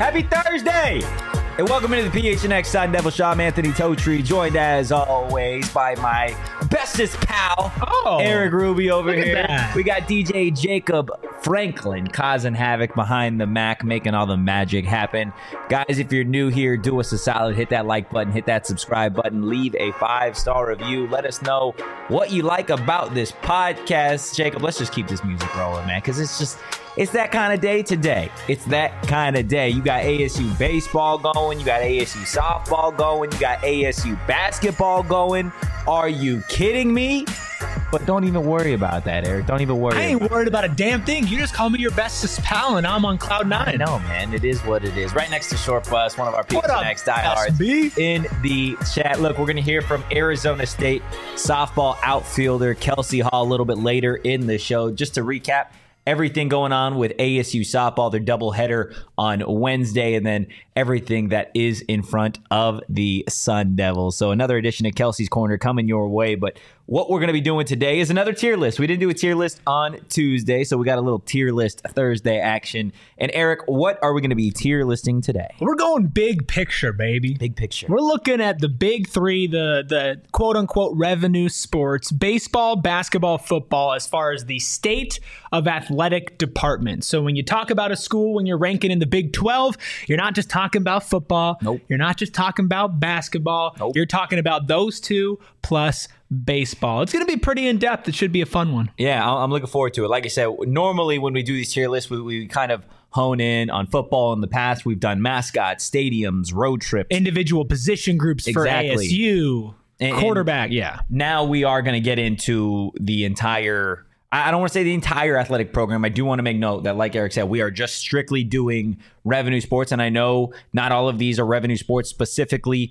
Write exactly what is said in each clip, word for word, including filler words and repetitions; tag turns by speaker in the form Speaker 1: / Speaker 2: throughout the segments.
Speaker 1: Happy Thursday! And welcome into the P H N X Sun Devil Show. I'm Anthony Totri, joined as always by my bestest pal,
Speaker 2: oh,
Speaker 1: Eric Ruby over here.
Speaker 2: That.
Speaker 1: We got D J Jacob Franklin causing havoc behind the Mac, making all the magic happen. Guys, if you're new here, do us a solid. Hit that like button, hit that subscribe button, leave a five-star review. Let us know what you like about this podcast. Jacob, let's just keep this music rolling, man, because it's just... It's that kind of day today. It's that kind of day. You got A S U baseball going. You got A S U softball going. You got A S U basketball going. Are you kidding me? But don't even worry about that, Eric. Don't even worry.
Speaker 2: I ain't
Speaker 1: about
Speaker 2: worried about a damn thing. You just call me your bestest pal, and I'm on cloud nine.
Speaker 1: I know, man. It is what it is. Right next to Short Bus, one of our P H N X
Speaker 2: What up,
Speaker 1: diehards
Speaker 2: S B?
Speaker 1: in the chat. Look, we're going to hear from Arizona State softball outfielder Kelsey Hall a little bit later in the show. Just to recap, everything going on with A S U softball, their doubleheader on Wednesday, and then everything that is in front of the Sun Devils. So another edition of Kelsey's Corner coming your way. But what we're going to be doing today is another tier list. We didn't do a tier list on Tuesday, so we got a little tier list Thursday action. And Eric, what are we going to be tier listing today?
Speaker 2: We're going big picture, baby.
Speaker 1: Big picture.
Speaker 2: We're looking at the big three, the the quote-unquote revenue sports, baseball, basketball, football, as far as the state of athletic department. So when you talk about a school, when you're ranking in the Big twelve, you're not just talking about football.
Speaker 1: Nope.
Speaker 2: You're not just talking about basketball.
Speaker 1: Nope.
Speaker 2: You're talking about those two plus baseball. It's going to be pretty in-depth. It should be a fun one.
Speaker 1: Yeah, I'm looking forward to it. Like I said, normally when we do these tier lists, we, we kind of hone in on football. In the past, we've done mascots, stadiums, road trips.
Speaker 2: Individual position groups
Speaker 1: Exactly.
Speaker 2: for A S U,
Speaker 1: And-
Speaker 2: quarterback,
Speaker 1: and
Speaker 2: yeah.
Speaker 1: Now we are going to get into the entire... I don't want to say the entire athletic program. I do want to make note that, like Eric said, we are just strictly doing revenue sports. And I know not all of these are revenue sports specifically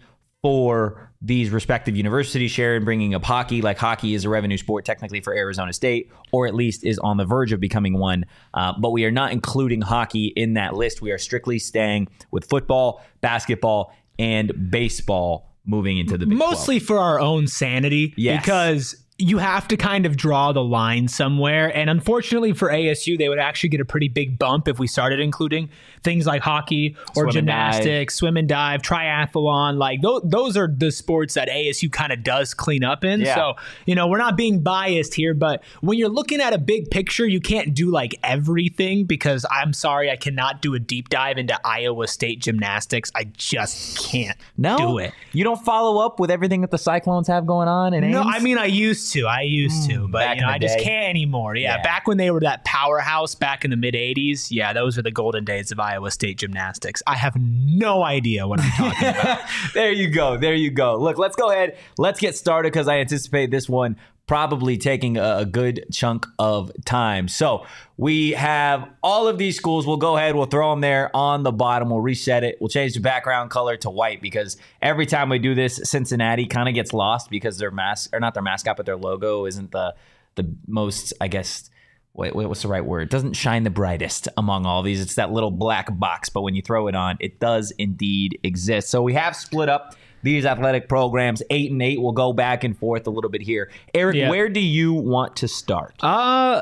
Speaker 1: for these respective universities. Sharon bringing up hockey, like hockey is a revenue sport technically for Arizona State, or at least is on the verge of becoming one. Uh, but we are not including hockey in that list. We are strictly staying with football, basketball, and baseball moving into the Big
Speaker 2: Mostly
Speaker 1: twelve.
Speaker 2: for our own sanity,
Speaker 1: Yes.
Speaker 2: because you have to kind of draw the line somewhere. And unfortunately for A S U, they would actually get a pretty big bump if we started including things like hockey or
Speaker 1: Swim and
Speaker 2: gymnastics, swim and dive, triathlon. Like those, those are the sports that A S U kind of does clean up in.
Speaker 1: Yeah.
Speaker 2: So, you know, we're not being biased here, but when you're looking at a big picture, you can't do like everything, because I'm sorry, I cannot do a deep dive into Iowa State gymnastics. I just can't
Speaker 1: No,
Speaker 2: do it.
Speaker 1: You don't follow up with everything that the Cyclones have going on in
Speaker 2: No,
Speaker 1: Ames?
Speaker 2: I mean I used to. I used to, but
Speaker 1: back
Speaker 2: you know,
Speaker 1: in the
Speaker 2: I just
Speaker 1: day.
Speaker 2: can't anymore. Yeah,
Speaker 1: Yeah.
Speaker 2: back when they were that powerhouse back in the mid eighties. Yeah, those were the golden days of Iowa State gymnastics. I have no idea what I'm talking about.
Speaker 1: There you go. There you go. Look, let's go ahead. Let's get started, because I anticipate this one probably taking a, a good chunk of time. So we have all of these schools. We'll go ahead. We'll throw them there on the bottom. We'll reset it. We'll change the background color to white, because every time we do this, Cincinnati kind of gets lost because their mask, or not their mascot, but their logo isn't the the most, I guess, wait, wait, what's the right word? It doesn't shine the brightest among all these. It's that little black box, but when you throw it on, it does indeed exist. So we have split up these athletic programs, eight and eight. We'll go back and forth a little bit here. Eric,
Speaker 2: Yeah.
Speaker 1: where do you want to start?
Speaker 2: Uh,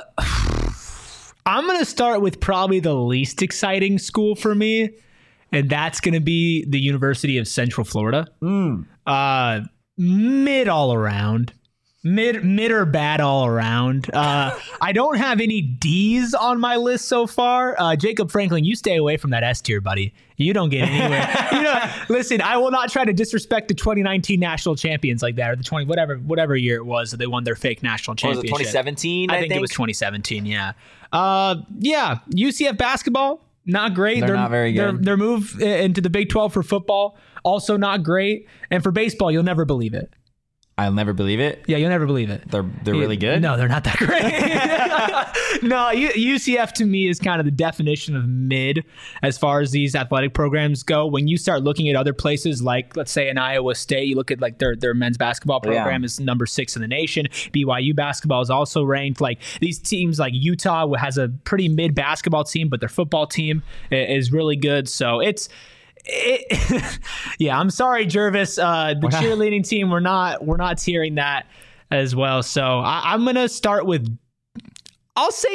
Speaker 2: I'm going to start with probably the least exciting school for me, and that's going to be the University of Central Florida.
Speaker 1: Mm.
Speaker 2: Uh, mid all around. Mid, mid or bad all around. Uh, I don't have any D's on my list so far. Uh, Jacob Franklin, you stay away from that S tier, buddy. You don't get anywhere. you know, listen, I will not try to disrespect the twenty nineteen national champions like that, or the twenty whatever whatever year it was that they won their fake national
Speaker 1: Was
Speaker 2: championship.
Speaker 1: it twenty seventeen?
Speaker 2: I, think, it was twenty seventeen. Yeah. Uh, yeah. U C F basketball, not great.
Speaker 1: They're not very
Speaker 2: Their,
Speaker 1: good.
Speaker 2: their move into the Big twelve for football, also not great. And for baseball, you'll never believe it.
Speaker 1: I'll never believe it.
Speaker 2: Yeah, you'll never believe it.
Speaker 1: They're they're really good.
Speaker 2: No, they're not that great. no, U- UCF to me is kind of the definition of mid as far as these athletic programs go. When you start looking at other places, like let's say in Iowa State, you look at like their their men's basketball program
Speaker 1: Yeah.
Speaker 2: is number six in the nation. B Y U basketball is also ranked. Like these teams, like Utah has a pretty mid basketball team, but their football team i- is really good. So it's. It, yeah, I'm sorry, Jervis. Uh, the
Speaker 1: not-
Speaker 2: cheerleading team, we're not we're not tiering that as well. So I, I'm gonna start with, I'll say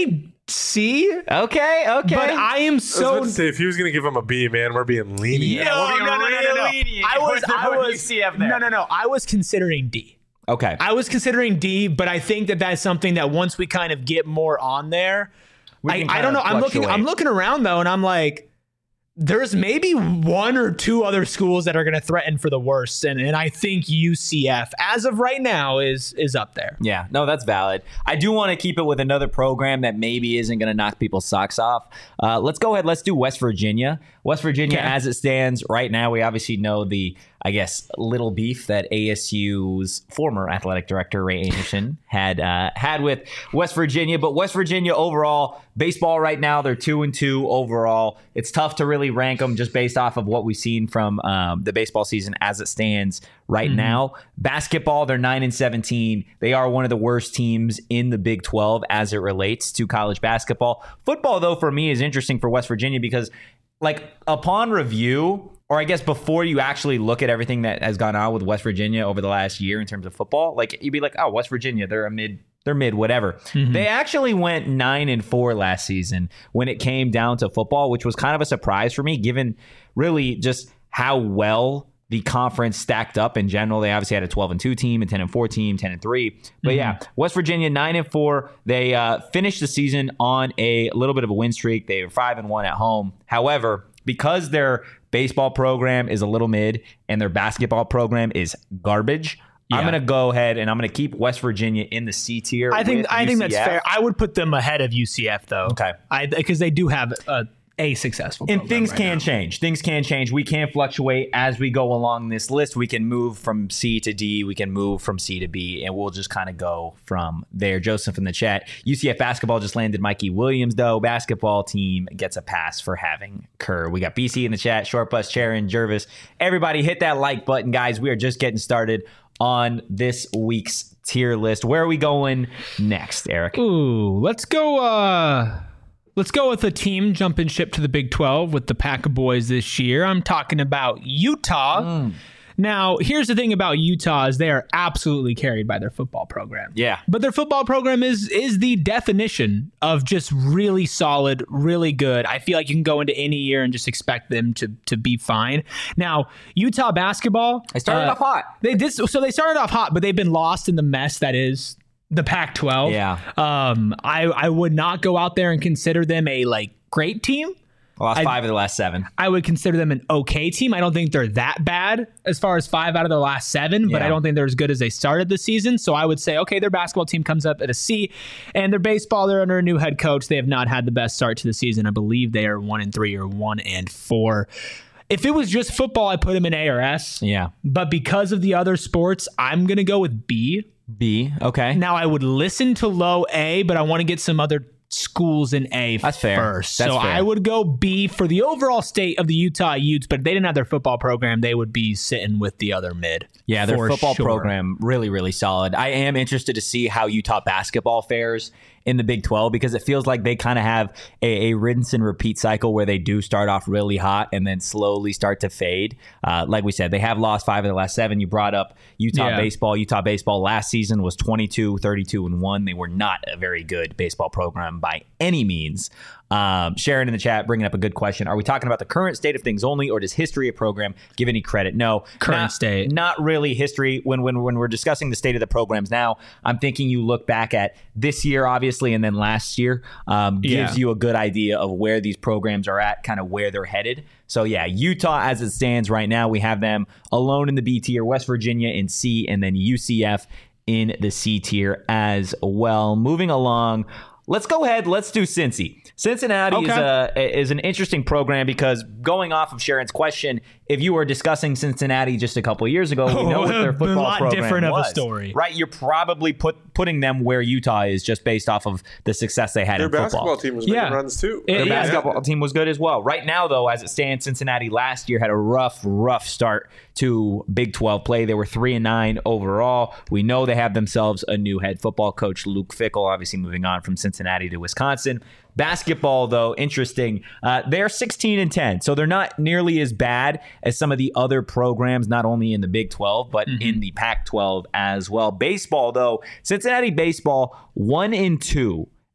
Speaker 2: C.
Speaker 1: Okay, okay.
Speaker 2: But I am
Speaker 3: I was
Speaker 2: so.
Speaker 3: about to say, if he was going to give him a B, man, we're being lenient.
Speaker 1: Yeah, we're being
Speaker 2: no, no, no, no, no.
Speaker 1: really lenient.
Speaker 2: I was,
Speaker 1: With the-
Speaker 2: I
Speaker 1: with
Speaker 2: was,
Speaker 1: U C F there.
Speaker 2: no, no, no. I was considering D.
Speaker 1: Okay.
Speaker 2: I was considering D, but I think that that's something that once we kind of get more on there,
Speaker 1: We
Speaker 2: I,
Speaker 1: can
Speaker 2: I
Speaker 1: kind
Speaker 2: don't know.
Speaker 1: of
Speaker 2: I'm looking.
Speaker 1: fluctuate.
Speaker 2: I'm looking around though, and I'm like, there's maybe one or two other schools that are going to threaten for the worst, and and I think U C F, as of right now, is is up there.
Speaker 1: Yeah, no, that's valid. I do want to keep it with another program that maybe isn't going to knock people's socks off. Uh, let's go ahead. Let's do West Virginia. West Virginia,
Speaker 2: Okay.
Speaker 1: as it stands right now, we obviously know the, I guess, little beef that A S U's former athletic director, Ray Anderson, had uh, had with West Virginia. But West Virginia overall, baseball right now, they're two and two overall. It's tough to really rank them just based off of what we've seen from um, the baseball season as it stands right
Speaker 2: Mm-hmm.
Speaker 1: now. Basketball, they're nine and seventeen. They are one of the worst teams in the Big twelve as it relates to college basketball. Football, though, for me is interesting for West Virginia because, like, upon review, or I guess before you actually look at everything that has gone on with West Virginia over the last year in terms of football, like, you'd be like, oh, West Virginia, they're a mid, they're mid, whatever.
Speaker 2: Mm-hmm.
Speaker 1: They actually went nine and four last season when it came down to football, which was kind of a surprise for me, given really just how well the conference stacked up in general. They obviously had a twelve and two team, a ten and four team, ten and three. But yeah, West Virginia nine and four. They uh, finished the season on a little bit of a win streak. They were five and one at home. However, because their baseball program is a little mid and their basketball program is garbage, I'm
Speaker 2: Yeah.
Speaker 1: going to go ahead and I'm going to keep West Virginia in the C tier.
Speaker 2: I think
Speaker 1: with
Speaker 2: I think that's
Speaker 1: U C F.
Speaker 2: fair. I would put them ahead of U C F though.
Speaker 1: Okay.
Speaker 2: I because they do have a, a successful.
Speaker 1: And
Speaker 2: program
Speaker 1: things
Speaker 2: right
Speaker 1: can
Speaker 2: now.
Speaker 1: change. Things can change. We can fluctuate as we go along this list. We can move from C to D. We can move from C to B, and we'll just kind of go from there. Joseph in the chat. U C F basketball just landed Mikey Williams, though. Basketball team gets a pass for having Kerr. We got B C in the chat. Short Bus, Sharon, Jervis. Everybody hit that like button, guys. We are just getting started on this week's tier list. Where are we going next, Eric?
Speaker 2: Ooh, let's go. Uh, let's go with a team jumping ship to the Big twelve with the Pack of Boys this year. I'm talking about Utah. Now, here's the thing about Utah is they are absolutely carried by their football program.
Speaker 1: Yeah.
Speaker 2: But their football program is is the definition of just really solid, really good. I feel like you can go into any year and just expect them to to be fine. Now, Utah basketball,
Speaker 1: They started
Speaker 2: uh,
Speaker 1: off hot.
Speaker 2: They did so they started off hot, but they've been lost in the mess that is the Pac twelve.
Speaker 1: Yeah.
Speaker 2: Um, I I would not go out there and consider them a like great team.
Speaker 1: Lost
Speaker 2: I-
Speaker 1: five of the last seven.
Speaker 2: I would consider them an okay team. I don't think they're that bad as far as five out of the last seven, but
Speaker 1: Yeah.
Speaker 2: I don't think they're as good as they started the season. So I would say, okay, their basketball team comes up at a C, and their baseball, they're under a new head coach. They have not had the best start to the season. I believe they are one and three or one and four. If it was just football, I put them in A or S.
Speaker 1: Yeah.
Speaker 2: But because of the other sports, I'm gonna go with B.
Speaker 1: B. Okay.
Speaker 2: Now I would listen to low A, but I want to get some other schools in A
Speaker 1: That's fair.
Speaker 2: first.
Speaker 1: That's
Speaker 2: so
Speaker 1: fair.
Speaker 2: I would go B for the overall state of the Utah Utes, but if they didn't have their football program, they would be sitting with the other mid.
Speaker 1: Yeah, their
Speaker 2: for
Speaker 1: football
Speaker 2: sure.
Speaker 1: program really, really solid. I am interested to see how Utah basketball fares in the Big twelve because it feels like they kind of have a, a rinse and repeat cycle where they do start off really hot and then slowly start to fade. Uh, like we said, they have lost five of the last seven. You brought up Utah
Speaker 2: Yeah.
Speaker 1: baseball. Utah baseball last season was twenty-two, thirty-two, and one. They were not a very good baseball program by any means. Um, Sharon in the chat bringing up a good question. Are we talking about the current state of things only, or does history of program give any credit? No,
Speaker 2: Current
Speaker 1: not,
Speaker 2: state.
Speaker 1: Not really history. When when when we're discussing the state of the programs now, I'm thinking you look back at this year, obviously, and then last year um, gives
Speaker 2: Yeah.
Speaker 1: you a good idea of where these programs are at, kind of where they're headed. So yeah, Utah as it stands right now, we have them alone in the B tier, West Virginia in C, and then U C F in the C tier as well. Moving along. Let's go ahead. Let's do Cincy. Cincinnati is
Speaker 2: Okay.
Speaker 1: a is an interesting program because going off of Sharon's question, if you were discussing Cincinnati just a couple years ago, we know what their
Speaker 2: A
Speaker 1: football
Speaker 2: lot
Speaker 1: program
Speaker 2: different of a
Speaker 1: was,
Speaker 2: story.
Speaker 1: right? You're probably put putting them where Utah is just based off of the success they had
Speaker 3: Their
Speaker 1: in football.
Speaker 3: basketball team was
Speaker 2: Yeah.
Speaker 3: making runs too.
Speaker 2: It-
Speaker 1: Their
Speaker 2: yeah.
Speaker 1: basketball team was good as well. Right now, though, as it stands, Cincinnati last year had a rough, rough start to Big twelve play. They were three and nine overall. We know they have themselves a new head football coach, Luke Fickell, obviously moving on from Cincinnati to Wisconsin. Basketball, though, interesting. Uh, they're sixteen and ten, so they're not nearly as bad as some of the other programs, not only in the Big twelve, but
Speaker 2: Mm-hmm.
Speaker 1: in the Pac twelve as well. Baseball, though, Cincinnati baseball, one and two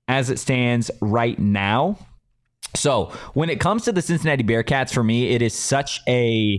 Speaker 1: as it stands right now. So when it comes to the Cincinnati Bearcats, for me, it is such a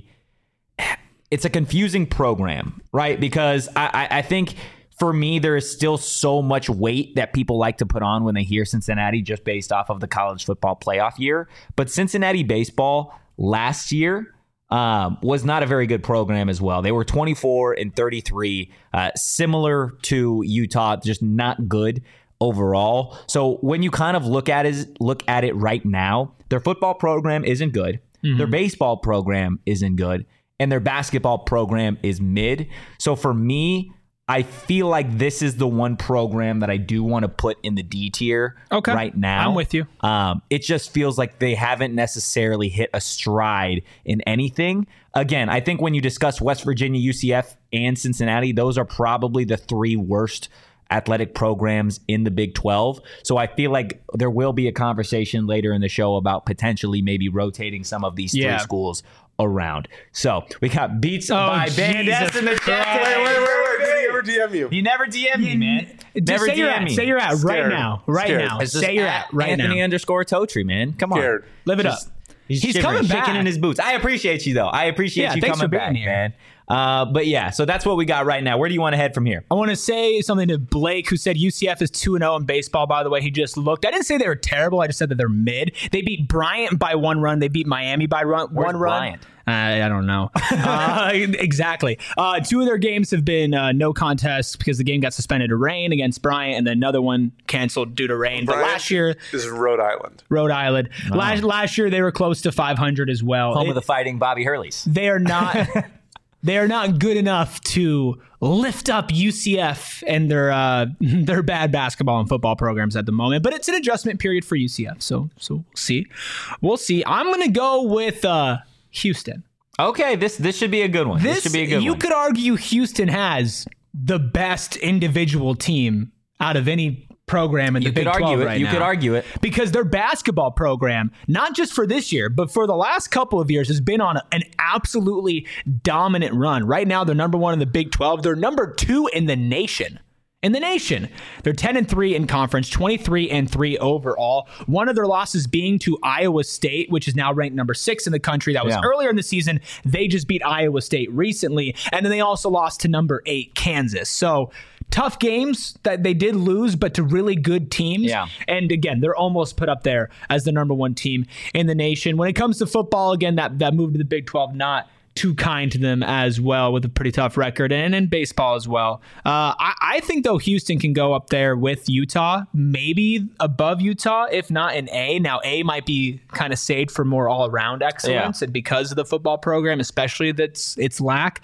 Speaker 1: it's a confusing program, right? Because I, I, I think for me, there is still so much weight that people like to put on when they hear Cincinnati just based off of the college football playoff year. But Cincinnati baseball last year um, was not a very good program as well. They were twenty-four and thirty-three, uh, similar to Utah, just not good overall. So when you kind of look at it, look at it right now, their football program isn't good. Mm-hmm. Their baseball program isn't good. And their basketball program is mid. So for me, I feel like this is the one program that I do want to put in the D tier
Speaker 2: okay.
Speaker 1: right now.
Speaker 2: I'm with you.
Speaker 1: Um, it just feels like they haven't necessarily hit a stride in anything. Again, I think when you discuss West Virginia, U C F, and Cincinnati, those are probably the three worst athletic programs in the Big twelve. So I feel like there will be a conversation later in the show about potentially maybe rotating some of these
Speaker 2: yeah.
Speaker 1: three schools around. So we got beats
Speaker 2: oh,
Speaker 1: by Van Ness in the chat.
Speaker 3: Wait, wait, wait, wait. Did he ever D M you?
Speaker 1: He never D M'd me, man.
Speaker 2: Just
Speaker 1: Never
Speaker 2: say
Speaker 1: D
Speaker 2: you're
Speaker 1: M
Speaker 2: at.
Speaker 1: me.
Speaker 2: Say you're at right
Speaker 3: Scared.
Speaker 2: now. Right
Speaker 3: Scared.
Speaker 2: now.
Speaker 1: It's just
Speaker 2: Say you're at right
Speaker 1: Anthony
Speaker 2: now.
Speaker 1: underscore Totri, man. Come on.
Speaker 3: Scared.
Speaker 2: Live it
Speaker 1: Just-
Speaker 2: up.
Speaker 1: He's,
Speaker 2: He's
Speaker 1: shivering,
Speaker 2: coming back.
Speaker 1: shaking in his boots. I appreciate you, though. I appreciate
Speaker 2: Yeah,
Speaker 1: you
Speaker 2: thanks
Speaker 1: coming
Speaker 2: for being
Speaker 1: back,
Speaker 2: here.
Speaker 1: man. Uh, but yeah, so that's what we got right now. Where do you want to head from here?
Speaker 2: I want to say something to Blake, who said U C F is two and oh in baseball, by the way. He just looked. I didn't say they were terrible. I just said that they're mid. They beat Bryant by one run. They beat Miami by run,
Speaker 1: Where's
Speaker 2: one run.
Speaker 1: Bryant?
Speaker 2: I, I don't know. uh, exactly. Uh, two of their games have been uh, no contests because the game got suspended to rain against Bryant, and then another one canceled due to rain.
Speaker 3: Bryant
Speaker 2: but last year,
Speaker 3: This is Rhode Island.
Speaker 2: Rhode Island. Last last year, they were close to five hundred as well.
Speaker 1: Home
Speaker 2: It-
Speaker 1: of the fighting Bobby Hurleys.
Speaker 2: they are not they are not good enough to lift up U C F and their uh, their bad basketball and football programs at the moment. But it's an adjustment period for U C F, so so we'll see. We'll see. I'm gonna go with uh, Houston.
Speaker 1: Okay, this this should be a good one. This,
Speaker 2: This,
Speaker 1: should be a good
Speaker 2: you
Speaker 1: one.
Speaker 2: could argue Houston has the best individual team out of any program in
Speaker 1: you
Speaker 2: the Big
Speaker 1: could argue
Speaker 2: twelve
Speaker 1: it.
Speaker 2: right
Speaker 1: you
Speaker 2: now.
Speaker 1: could argue it.
Speaker 2: Because their basketball program, not just for this year, but for the last couple of years, has been on an absolutely dominant run. Right now, they're number one in the Big twelve. They're number two in the nation. In the nation, they're ten and three in conference, twenty-three and three overall. One of their losses being to Iowa State, which is now ranked number six in the country. That was
Speaker 1: Yeah.
Speaker 2: earlier in the season. They just beat Iowa State recently, and then they also lost to number eight Kansas. So tough games that they did lose, but to really good teams.
Speaker 1: Yeah.
Speaker 2: And again, they're almost put up there as the number one team in the nation. When it comes to football, again, that that move to the Big twelve, not too kind to them as well, with a pretty tough record, and in baseball as well. Uh, I, I think, though, Houston can go up there with Utah, maybe above Utah, if not in A. Now, A might be kind of saved for more all-around excellence,
Speaker 1: Yeah.
Speaker 2: and because of the football program, especially that's its lack.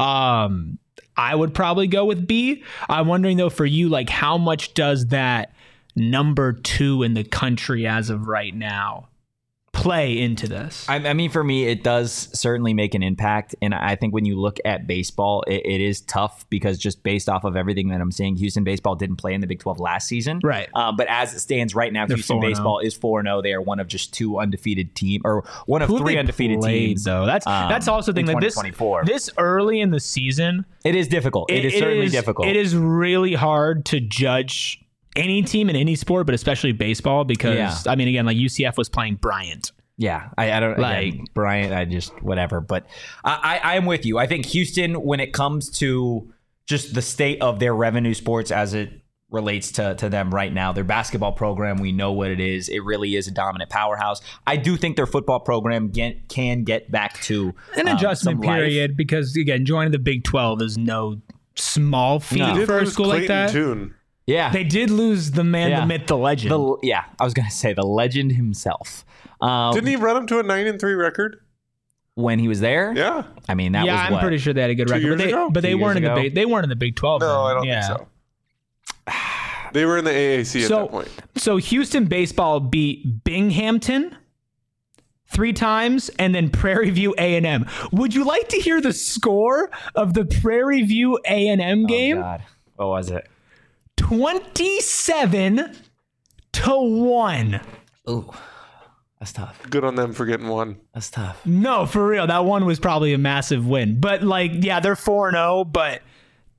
Speaker 2: Um, I would probably go with B. I'm wondering, though, for you, like, how much does that number two in the country as of right now play into this?
Speaker 1: I, I mean, for me, it does certainly make an impact. And I think when you look at baseball, it, it is tough because just based off of everything that I'm seeing, Houston baseball didn't play in the Big twelve last season.
Speaker 2: Right.
Speaker 1: Um, but as it stands right now,
Speaker 2: They're
Speaker 1: Houston
Speaker 2: four and oh.
Speaker 1: baseball is four and oh. They are one of just two undefeated team or one of
Speaker 2: Who have
Speaker 1: three
Speaker 2: they
Speaker 1: undefeated
Speaker 2: played,
Speaker 1: teams.
Speaker 2: though. That's
Speaker 1: um,
Speaker 2: that's also the thing.
Speaker 1: in
Speaker 2: Like this,
Speaker 1: twenty twenty-four.
Speaker 2: this early in the season,
Speaker 1: It is difficult. it is certainly
Speaker 2: is-
Speaker 1: difficult.
Speaker 2: It is really hard to judge any team in any sport, but especially baseball, because
Speaker 1: Yeah.
Speaker 2: I mean, again, like U C F was playing Bryant.
Speaker 1: Yeah, I, I don't
Speaker 2: Like-
Speaker 1: like Bryant. I just whatever, but I, I I'm with you. I think Houston, when it comes to just the state of their revenue sports as it relates to to them right now, their basketball program, we know what it is. It really is a dominant powerhouse. I do think their football program get, can get back to
Speaker 2: An
Speaker 1: um,
Speaker 2: adjustment
Speaker 1: some life.
Speaker 2: period, because again, joining the Big twelve is no small feat
Speaker 1: No.
Speaker 3: They did
Speaker 2: for a
Speaker 3: lose
Speaker 2: school like
Speaker 3: Clayton
Speaker 2: that.
Speaker 3: Tune.
Speaker 1: Yeah,
Speaker 2: They did lose the man,
Speaker 1: Yeah.
Speaker 2: the myth, the legend.
Speaker 1: the yeah. I was gonna say the legend himself. Um,
Speaker 3: Didn't he run him to a nine and three record?
Speaker 1: when he was there?
Speaker 3: Yeah.
Speaker 1: I mean that
Speaker 2: yeah,
Speaker 1: was
Speaker 2: I'm
Speaker 1: what?
Speaker 2: pretty sure they had a good
Speaker 3: Two
Speaker 2: record, but
Speaker 3: years
Speaker 2: they,
Speaker 3: ago?
Speaker 2: but they
Speaker 1: Two
Speaker 2: weren't in
Speaker 1: years
Speaker 2: the
Speaker 1: ago?
Speaker 2: big. They weren't in the Big twelve.
Speaker 3: No,
Speaker 2: then.
Speaker 3: I don't
Speaker 2: yeah.
Speaker 3: think so. They were in the A A C at
Speaker 2: So,
Speaker 3: that point.
Speaker 2: so Houston baseball beat Binghamton three times, and then Prairie View A and M. Would you like to hear the score of the Prairie View A and M
Speaker 1: Oh,
Speaker 2: game?
Speaker 1: God. What was it?
Speaker 2: Twenty-seven to one.
Speaker 1: Ooh, that's tough.
Speaker 3: Good on them for getting one.
Speaker 1: That's tough.
Speaker 2: No, for real, that one was probably a massive win. But like, yeah, they're four and zero, but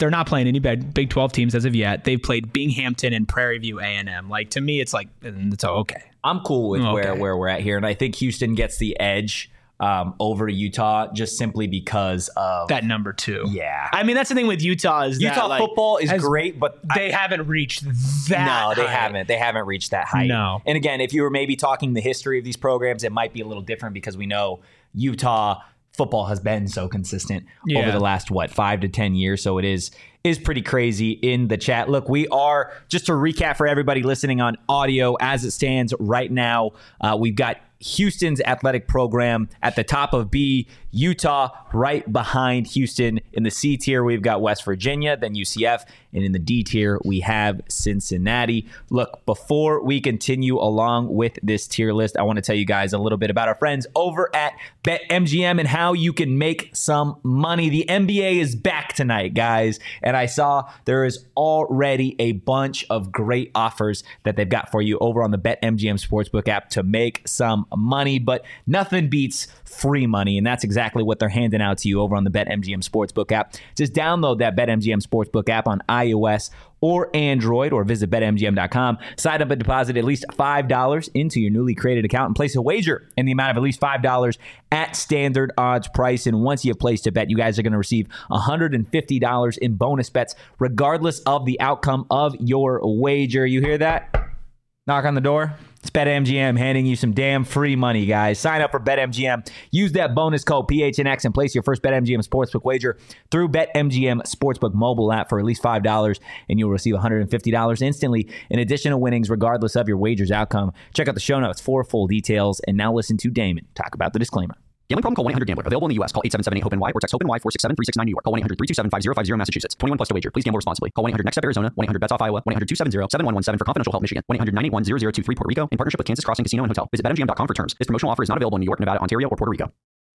Speaker 2: They're not playing any big Big twelve teams as of yet. They've played Binghamton and Prairie View A and M. Like, to me, it's like, it's okay.
Speaker 1: I'm cool with
Speaker 2: Okay.
Speaker 1: where, where we're at here. And I think Houston gets the edge um, over Utah just simply because of
Speaker 2: That number two.
Speaker 1: Yeah.
Speaker 2: I mean, that's the thing with Utah is that,
Speaker 1: Utah
Speaker 2: like,
Speaker 1: football is
Speaker 2: has-
Speaker 1: great, but
Speaker 2: They
Speaker 1: I,
Speaker 2: haven't reached that.
Speaker 1: no, they
Speaker 2: high.
Speaker 1: haven't. They haven't reached that height.
Speaker 2: No.
Speaker 1: And again, if you were maybe talking the history of these programs, it might be a little different because we know Utah football has been so consistent
Speaker 2: Yeah.
Speaker 1: over the last what five to ten years. So it is is pretty crazy in the chat. Look, we are, just to recap for everybody listening on audio, as it stands right now, uh, we've got Houston's athletic program at the top of B, Utah right behind Houston. In the C tier, we've got West Virginia, then U C F, and in the D tier, we have Cincinnati. Look, before we continue along with this tier list, I want to tell you guys a little bit about our friends over at BetMGM and how you can make some money. The N B A is back tonight, guys, and I saw there is already a bunch of great offers that they've got for you over on the BetMGM Sportsbook app to make some money, but nothing beats free money, and that's exactly what they're handing out to you over on the BetMGM Sportsbook app. Just download that BetMGM Sportsbook app on iOS or Android, or visit bet M G M dot com. Sign up and deposit at least five dollars into your newly created account and place a wager in the amount of at least five dollars at standard odds price. And once you have placed a bet, you guys are going to receive one hundred fifty dollars in bonus bets, regardless of the outcome of your wager. You hear that? Knock on the door. It's BetMGM handing you some damn free money, guys. Sign up for BetMGM. Use that bonus code P H N X and place your first BetMGM Sportsbook wager through BetMGM Sportsbook mobile app for at least five dollars, and you'll receive one hundred fifty dollars instantly in additional winnings, regardless of your wager's outcome. Check out the show notes for full details, and now listen to Damon talk about the disclaimer.
Speaker 4: Gambling problem? Call one eight hundred gambler. Available in the U S. Call eight seven seven eight hope N Y or text HOPE-NY four six seven three six nine New York. Call one eight hundred three two seven five zero five zero Massachusetts. twenty-one plus to wager. Please gamble responsibly. Call one eight hundred next step Arizona. one eight hundred bets off Iowa. one eight hundred two seven zero seven one one seven for confidential help Michigan. one eight hundred nine eight one zero zero two three Puerto Rico in partnership with Kansas Crossing Casino and Hotel. Visit bet M G M dot com for terms. This promotional offer is not available in New York, Nevada, Ontario, or Puerto Rico.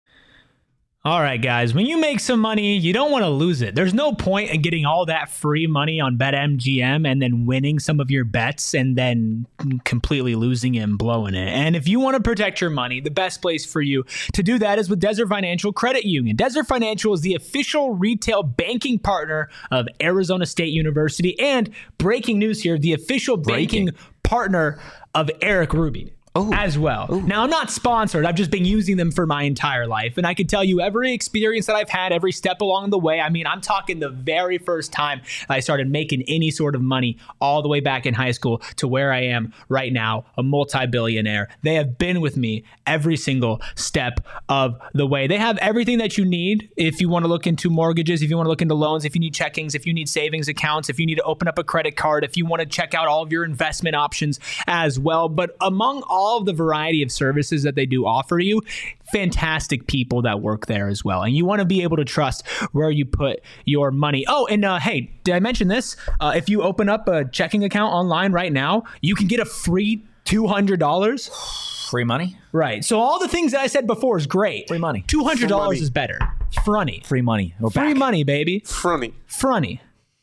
Speaker 2: All right, guys, when you make some money, you don't want to lose it. There's no point in getting all that free money on BetMGM and then winning some of your bets and then completely losing it and blowing it. And if you want to protect your money, the best place for you to do that is with Desert Financial Credit Union. Desert Financial is the official retail banking partner of Arizona State University, and breaking news here, the official banking
Speaker 1: Breaking.
Speaker 2: partner of Eric Rubin.
Speaker 1: Oh.
Speaker 2: As well.
Speaker 1: Ooh.
Speaker 2: Now, I'm not sponsored. I've just been using them for my entire life. And I can tell you every experience that I've had, every step along the way. I mean, I'm talking the very first time I started making any sort of money all the way back in high school to where I am right now, a multi-billionaire. They have been with me every single step of the way. They have everything that you need if you want to look into mortgages, if you want to look into loans, if you need checkings, if you need savings accounts, if you need to open up a credit card, if you want to check out all of your investment options as well. But among all all of the variety of services that they do offer you, fantastic people that work there as well. And you want to be able to trust where you put your money. Oh, and uh, hey, did I mention this? Uh, if you open up a checking account online right now, you can get a free two hundred dollars.
Speaker 1: Free money?
Speaker 2: Right. So all the things that I said before is great.
Speaker 1: Free money.
Speaker 2: two hundred dollars
Speaker 3: Free money.
Speaker 2: is better. Frunny.
Speaker 1: Free money. We're
Speaker 2: Free
Speaker 1: back.
Speaker 2: money, baby.
Speaker 3: Frunny.
Speaker 2: Frunny.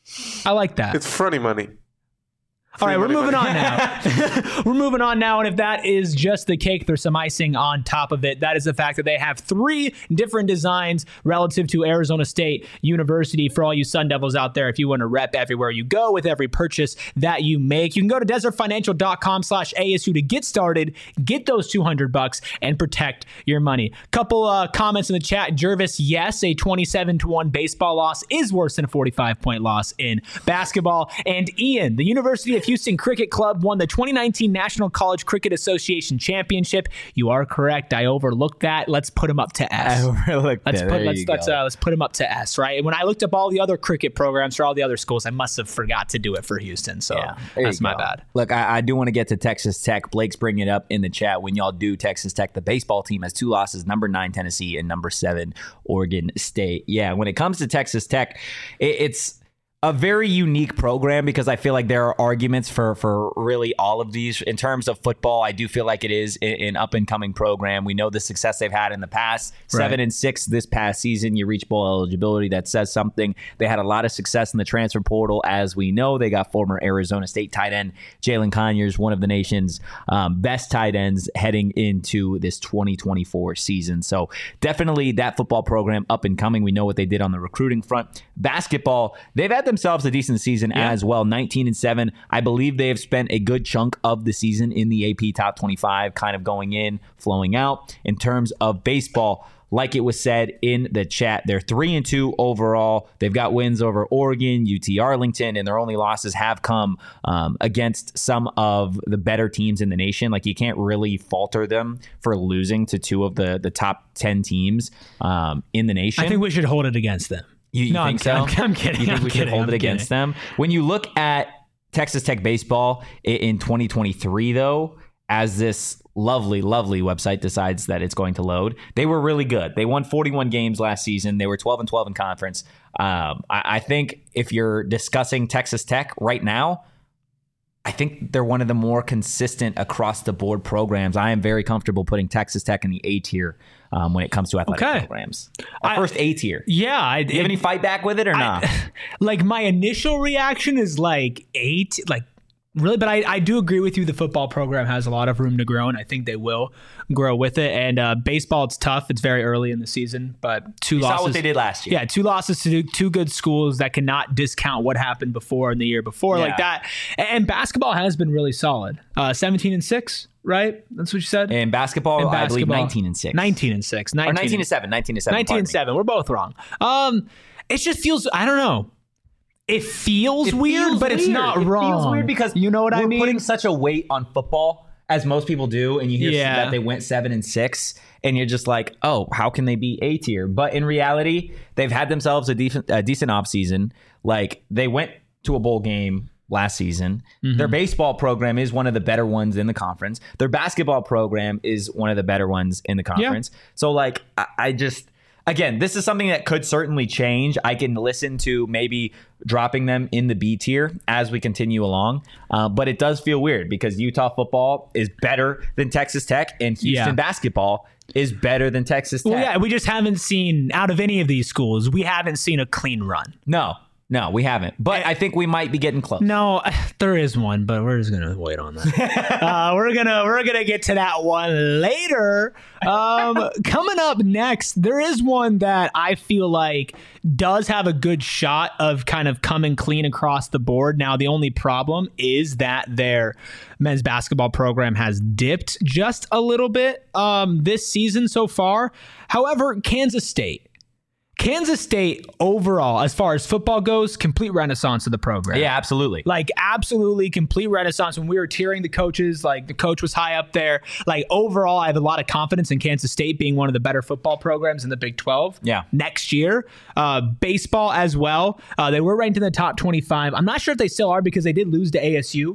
Speaker 2: I like that.
Speaker 3: It's frunny money.
Speaker 2: All right, we're
Speaker 3: money,
Speaker 2: moving
Speaker 3: money.
Speaker 2: on now. We're moving on now, and if that is just the cake, there's some icing on top of it. That is the fact that they have three different designs relative to Arizona State University for all you Sun Devils out there. If you want to rep everywhere you go with every purchase that you make, you can go to desert financial dot com slash A S U to get started, get those two hundred bucks, and protect your money. Couple uh, comments in the chat. Jervis, yes, a twenty-seven to one baseball loss is worse than a forty-five point loss in basketball. And Ian, the University of Houston Cricket Club won the twenty nineteen National College Cricket Association Championship. You are correct. I overlooked that. Let's put him up to S.
Speaker 1: I overlooked
Speaker 2: Let's
Speaker 1: that.
Speaker 2: put
Speaker 1: There
Speaker 2: let's
Speaker 1: you
Speaker 2: let's
Speaker 1: go.
Speaker 2: uh, let's put him up to S. Right. And when I looked up all the other cricket programs for all the other schools, I must have forgot to do it for Houston. So
Speaker 1: Yeah, there
Speaker 2: that's
Speaker 1: you
Speaker 2: my
Speaker 1: go.
Speaker 2: bad.
Speaker 1: Look, I, I do want to get to Texas Tech. Blake's bringing it up in the chat. When y'all do Texas Tech, the baseball team has two losses, number nine Tennessee and number seven Oregon State. Yeah, when it comes to Texas Tech, it, it's a very unique program because I feel like there are arguments for for really all of these. In terms of football, I do feel like it is an up and coming program. We know the success they've had in the past. Seven
Speaker 2: Right.
Speaker 1: and six this past season. You reach bowl eligibility. That says something. They had a lot of success in the transfer portal, as we know. They got former Arizona State tight end Jalen Conyers, one of the nation's um, best tight ends, heading into this twenty twenty-four season. So definitely that football program up and coming. We know what they did on the recruiting front. Basketball, they've had themselves a decent season
Speaker 2: Yeah.
Speaker 1: as well. nineteen and seven. I believe they have spent a good chunk of the season in the A P top twenty-five, kind of going in, flowing out. In terms of baseball, like it was said in the chat, they're three and two overall. They've got wins over Oregon, U T Arlington, and their only losses have come um, against some of the better teams in the nation. Like, you can't really falter them for losing to two of the the top ten teams um, in the nation.
Speaker 2: I think we should hold it against them.
Speaker 1: You, you
Speaker 2: No,
Speaker 1: think
Speaker 2: I'm-
Speaker 1: so?
Speaker 2: I'm- I'm kidding.
Speaker 1: You think
Speaker 2: I'm
Speaker 1: we should
Speaker 2: kidding.
Speaker 1: hold
Speaker 2: I'm
Speaker 1: it against
Speaker 2: kidding.
Speaker 1: them? When you look at Texas Tech baseball i- in twenty twenty-three, though, as this lovely, lovely website decides that it's going to load, they were really good. They won forty-one games last season. They were twelve and twelve in conference. Um, I, I think if you're discussing Texas Tech right now, I think they're one of the more consistent across the board programs. I am very comfortable putting Texas Tech in the A tier um, when it comes to athletic
Speaker 2: Okay.
Speaker 1: programs. Our
Speaker 2: I-
Speaker 1: first A tier.
Speaker 2: Yeah, I,
Speaker 1: Do you have any fight back with it or not?
Speaker 2: like my initial reaction is like eight, like really, but I, I do agree with you. The football program has a lot of room to grow, and I think they will grow with it. And uh, baseball, it's tough. It's very early in the season, but two
Speaker 1: You
Speaker 2: losses.
Speaker 1: saw what they did last year.
Speaker 2: Yeah, two losses to two good schools that cannot discount what happened before in the year before,
Speaker 1: Yeah.
Speaker 2: like that. And basketball has been really solid. Uh, seventeen and six, right? That's what you said.
Speaker 1: In basketball,
Speaker 2: In
Speaker 1: I believe
Speaker 2: basketball,
Speaker 1: nineteen and six.
Speaker 2: nineteen and six.
Speaker 1: Or
Speaker 2: nineteen
Speaker 1: nineteen and seven. nineteen and seven.
Speaker 2: nineteen and
Speaker 1: pardon me.
Speaker 2: seven. We're both wrong. Um, it just feels. I don't know. It feels
Speaker 1: It
Speaker 2: weird,
Speaker 1: feels
Speaker 2: but it's
Speaker 1: weird.
Speaker 2: not
Speaker 1: It
Speaker 2: wrong.
Speaker 1: feels weird because
Speaker 2: you know what I
Speaker 1: we're
Speaker 2: mean.
Speaker 1: putting such a weight on football, as most people do, and you hear
Speaker 2: Yeah.
Speaker 1: that they went seven and six, and you're just like, oh, how can they be A tier? But in reality, they've had themselves a decent, a decent offseason. Like, they went to a bowl game last season.
Speaker 2: Mm-hmm.
Speaker 1: Their baseball program is one of the better ones in the conference. Their basketball program is one of the better ones in the conference. So, like, I, I just. Again, this is something that could certainly change. I can listen to maybe dropping them in the B tier as we continue along. Uh, but it does feel weird because Utah football is better than Texas Tech, and Houston
Speaker 2: Yeah.
Speaker 1: basketball is better than Texas Tech.
Speaker 2: Well, yeah, we just haven't seen out of any of these schools. We haven't seen a clean run.
Speaker 1: No, no, we haven't. But I think we might be getting close.
Speaker 2: No, there is one, but we're just gonna wait on that. uh, we're gonna we're gonna get to that one later. Um, coming up next, there is one that I feel like does have a good shot of kind of coming clean across the board. Now, the only problem is that their men's basketball program has dipped just a little bit um, this season so far. However, Kansas State. Kansas State overall, as far as football goes, complete renaissance of the program.
Speaker 1: Yeah, absolutely.
Speaker 2: Like, absolutely complete renaissance. When we were tiering the coaches, like, the coach was high up there. Like, overall, I have a lot of confidence in Kansas State being one of the better football programs in the Big twelve
Speaker 1: Yeah.
Speaker 2: next year. Uh, baseball as well. Uh, they were ranked in the top twenty-five. I'm not sure if they still are because they did lose to A S U.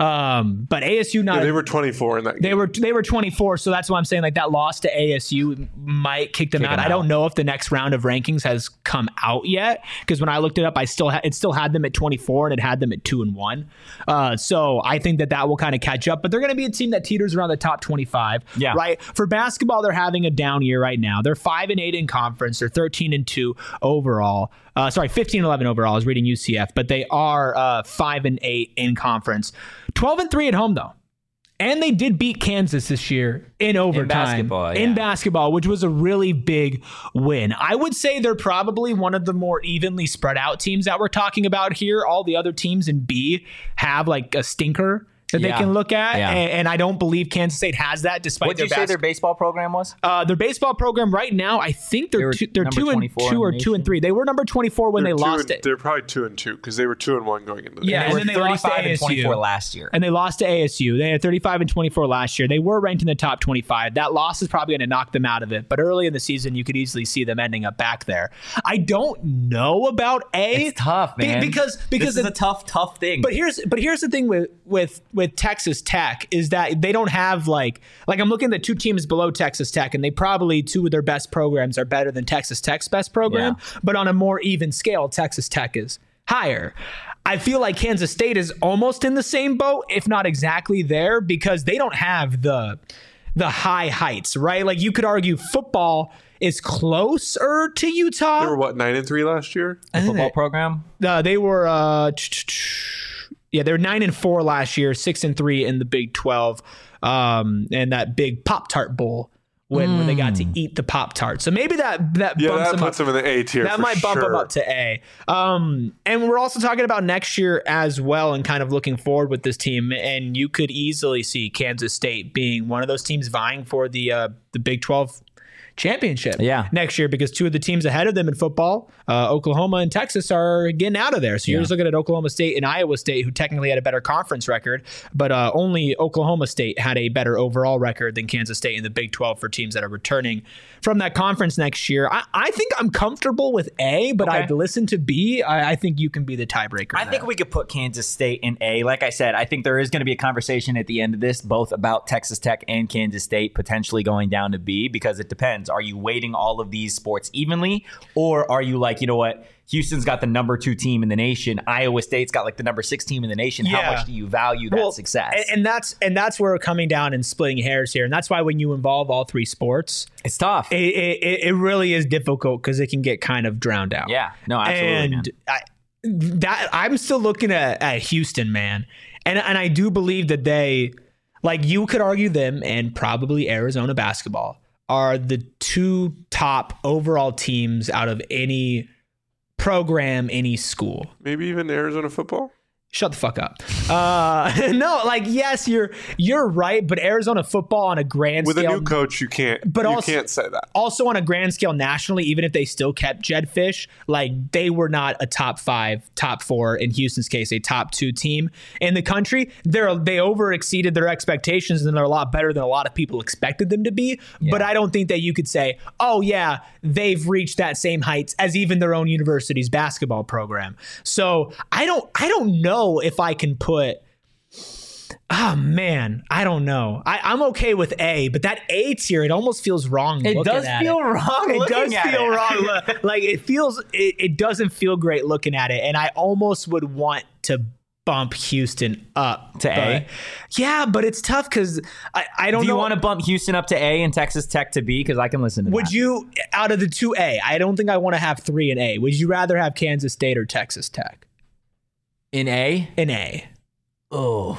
Speaker 2: Um, but A S U not
Speaker 3: Yeah, they were twenty-four in that game.
Speaker 2: they were they were twenty-four, so that's why I'm saying like that loss to A S U might kick them
Speaker 1: Kick
Speaker 2: out.
Speaker 1: them
Speaker 2: I don't
Speaker 1: out.
Speaker 2: know if the next round of rankings has come out yet because when I looked it up, I still ha- it still had them at twenty-four and it had them at two and one. Uh, so I think that that will kind of catch up, but they're going to be a team that teeters around the top twenty-five.
Speaker 1: Yeah.
Speaker 2: Right. For basketball, they're having a down year right now. They're five and eight in conference. They're thirteen and two overall. Uh, sorry, fifteen and eleven overall. I was reading U C F, but they are uh, five and eight in conference. twelve and three at home though. And they did beat Kansas this year in overtime.
Speaker 1: basketball,
Speaker 2: In
Speaker 1: yeah.
Speaker 2: basketball, which was a really big win. I would say they're probably one of the more evenly spread out teams that we're talking about here. All the other teams in B have like a stinker that
Speaker 1: Yeah.
Speaker 2: they can look at.
Speaker 1: Yeah.
Speaker 2: And, and I don't believe Kansas State has that despite
Speaker 1: What did
Speaker 2: their
Speaker 1: you say
Speaker 2: bas-
Speaker 1: their baseball program was?
Speaker 2: uh, their baseball program right now, I think they're
Speaker 1: They were
Speaker 2: two, they're
Speaker 1: number
Speaker 2: two and
Speaker 1: twenty-four
Speaker 2: two
Speaker 1: in
Speaker 2: or
Speaker 1: the
Speaker 2: two and
Speaker 1: nation.
Speaker 2: three. They were number twenty-four when
Speaker 3: They're
Speaker 2: they
Speaker 3: two
Speaker 2: lost
Speaker 3: and,
Speaker 2: it.
Speaker 3: They're probably two and two because they were two and one going into the
Speaker 2: Yeah,
Speaker 3: game.
Speaker 2: and
Speaker 1: They
Speaker 2: then
Speaker 1: were
Speaker 2: they lost to
Speaker 1: thirty-five
Speaker 2: A
Speaker 1: and
Speaker 2: S U.
Speaker 1: twenty-four last year.
Speaker 2: And they lost to A S U. They had thirty-five and twenty-four last year. They were ranked in the top twenty-five. That loss is probably going to knock them out of it. But early in the season, you could easily see them ending up back there. I don't know about A.
Speaker 1: It's tough,
Speaker 2: Be-
Speaker 1: man.
Speaker 2: because because
Speaker 1: this is
Speaker 2: the-
Speaker 1: a tough, tough thing.
Speaker 2: But here's but here's the thing with with with Texas Tech is that they don't have like like I'm looking at the two teams below Texas Tech, and they probably two of their best programs are better than Texas Tech's best program.
Speaker 1: Yeah.
Speaker 2: But on a more even scale, Texas Tech is higher. I feel like Kansas State is almost in the same boat, if not exactly there, because they don't have the the high heights, right? Like you could argue football is closer to Utah.
Speaker 3: They were what, nine and three last year?
Speaker 1: The football program?
Speaker 2: Uh, they were, uh, yeah, they were nine and four last year, six and three in the Big twelve, um, and that big Pop-Tart Bowl when, mm. when they got to eat the Pop-Tart. So maybe that that
Speaker 3: yeah,
Speaker 2: bumps
Speaker 3: that
Speaker 2: them
Speaker 3: puts
Speaker 2: up.
Speaker 3: them in the A tier.
Speaker 2: That
Speaker 3: for
Speaker 2: might bump
Speaker 3: sure.
Speaker 2: them up to A. Um, and we're also talking about next year as well, and kind of looking forward with this team. And you could easily see Kansas State being one of those teams vying for the uh, the Big twelve championship
Speaker 1: yeah.
Speaker 2: next year, because two of the teams ahead of them in football, uh, Oklahoma and Texas, are getting out of there. So you're
Speaker 1: yeah.
Speaker 2: just looking at Oklahoma State and Iowa State, who technically had a better conference record, but uh, only Oklahoma State had a better overall record than Kansas State in the Big twelve for teams that are returning from that conference next year. I, I think I'm comfortable with A, but
Speaker 1: Okay.
Speaker 2: I'd listen to B. I, I think you can be the tiebreaker.
Speaker 1: I think
Speaker 2: there.
Speaker 1: we could put Kansas State in A. Like I said, I think there is going to be a conversation at the end of this, both about Texas Tech and Kansas State potentially going down to B, because it depends. Are you weighting all of these sports evenly, or are you like, you know what, Houston's got the number two team in the nation, Iowa State's got like the number six team in the nation.
Speaker 2: Yeah.
Speaker 1: How much do you value that
Speaker 2: Well,
Speaker 1: success?
Speaker 2: And, and that's and that's where we're coming down and splitting hairs here. And that's why when you involve all three sports,
Speaker 1: it's tough.
Speaker 2: It, it, it really is difficult because it can get kind of drowned out.
Speaker 1: Yeah, no, absolutely.
Speaker 2: And
Speaker 1: man.
Speaker 2: I, that I'm still looking at, at Houston, man, and and I do believe that they, like you could argue them and probably Arizona basketball are the two top overall teams out of any program, any school.
Speaker 3: Maybe even Arizona football.
Speaker 2: Shut the fuck up. Uh, no, like, yes, you're you're right, but Arizona football on a grand
Speaker 3: With
Speaker 2: scale.
Speaker 3: a new coach, you can't.
Speaker 2: But
Speaker 3: you
Speaker 2: also-
Speaker 3: can't say that.
Speaker 2: Also on a grand scale nationally, even if they still kept Jed Fish, like they were not a top five, top four, in Houston's case, a top two team in the country. They're they over exceeded their expectations, and they're a lot better than a lot of people expected them to be.
Speaker 1: Yeah.
Speaker 2: But I don't think that you could say, oh yeah, they've reached that same heights as even their own university's basketball program. So I don't I don't know if I can put Oh man, I don't know. I, I'm okay with A, but that A tier, it almost feels wrong.
Speaker 1: It
Speaker 2: looking
Speaker 1: does
Speaker 2: at
Speaker 1: feel
Speaker 2: it.
Speaker 1: wrong.
Speaker 2: It
Speaker 1: looking
Speaker 2: does
Speaker 1: at
Speaker 2: feel
Speaker 1: it.
Speaker 2: wrong. Look, like it feels, it, it doesn't feel great looking at it, and I almost would want to bump Houston up
Speaker 1: To A?
Speaker 2: but- Yeah, but it's tough because I, I don't
Speaker 1: Do
Speaker 2: know.
Speaker 1: you want to bump Houston up to A and Texas Tech to B? Because I can listen to
Speaker 2: Would
Speaker 1: that.
Speaker 2: you, out of the two A, I don't think I want to have three in A. Would you rather have Kansas State or Texas Tech
Speaker 1: In A?
Speaker 2: in A?
Speaker 1: Oh,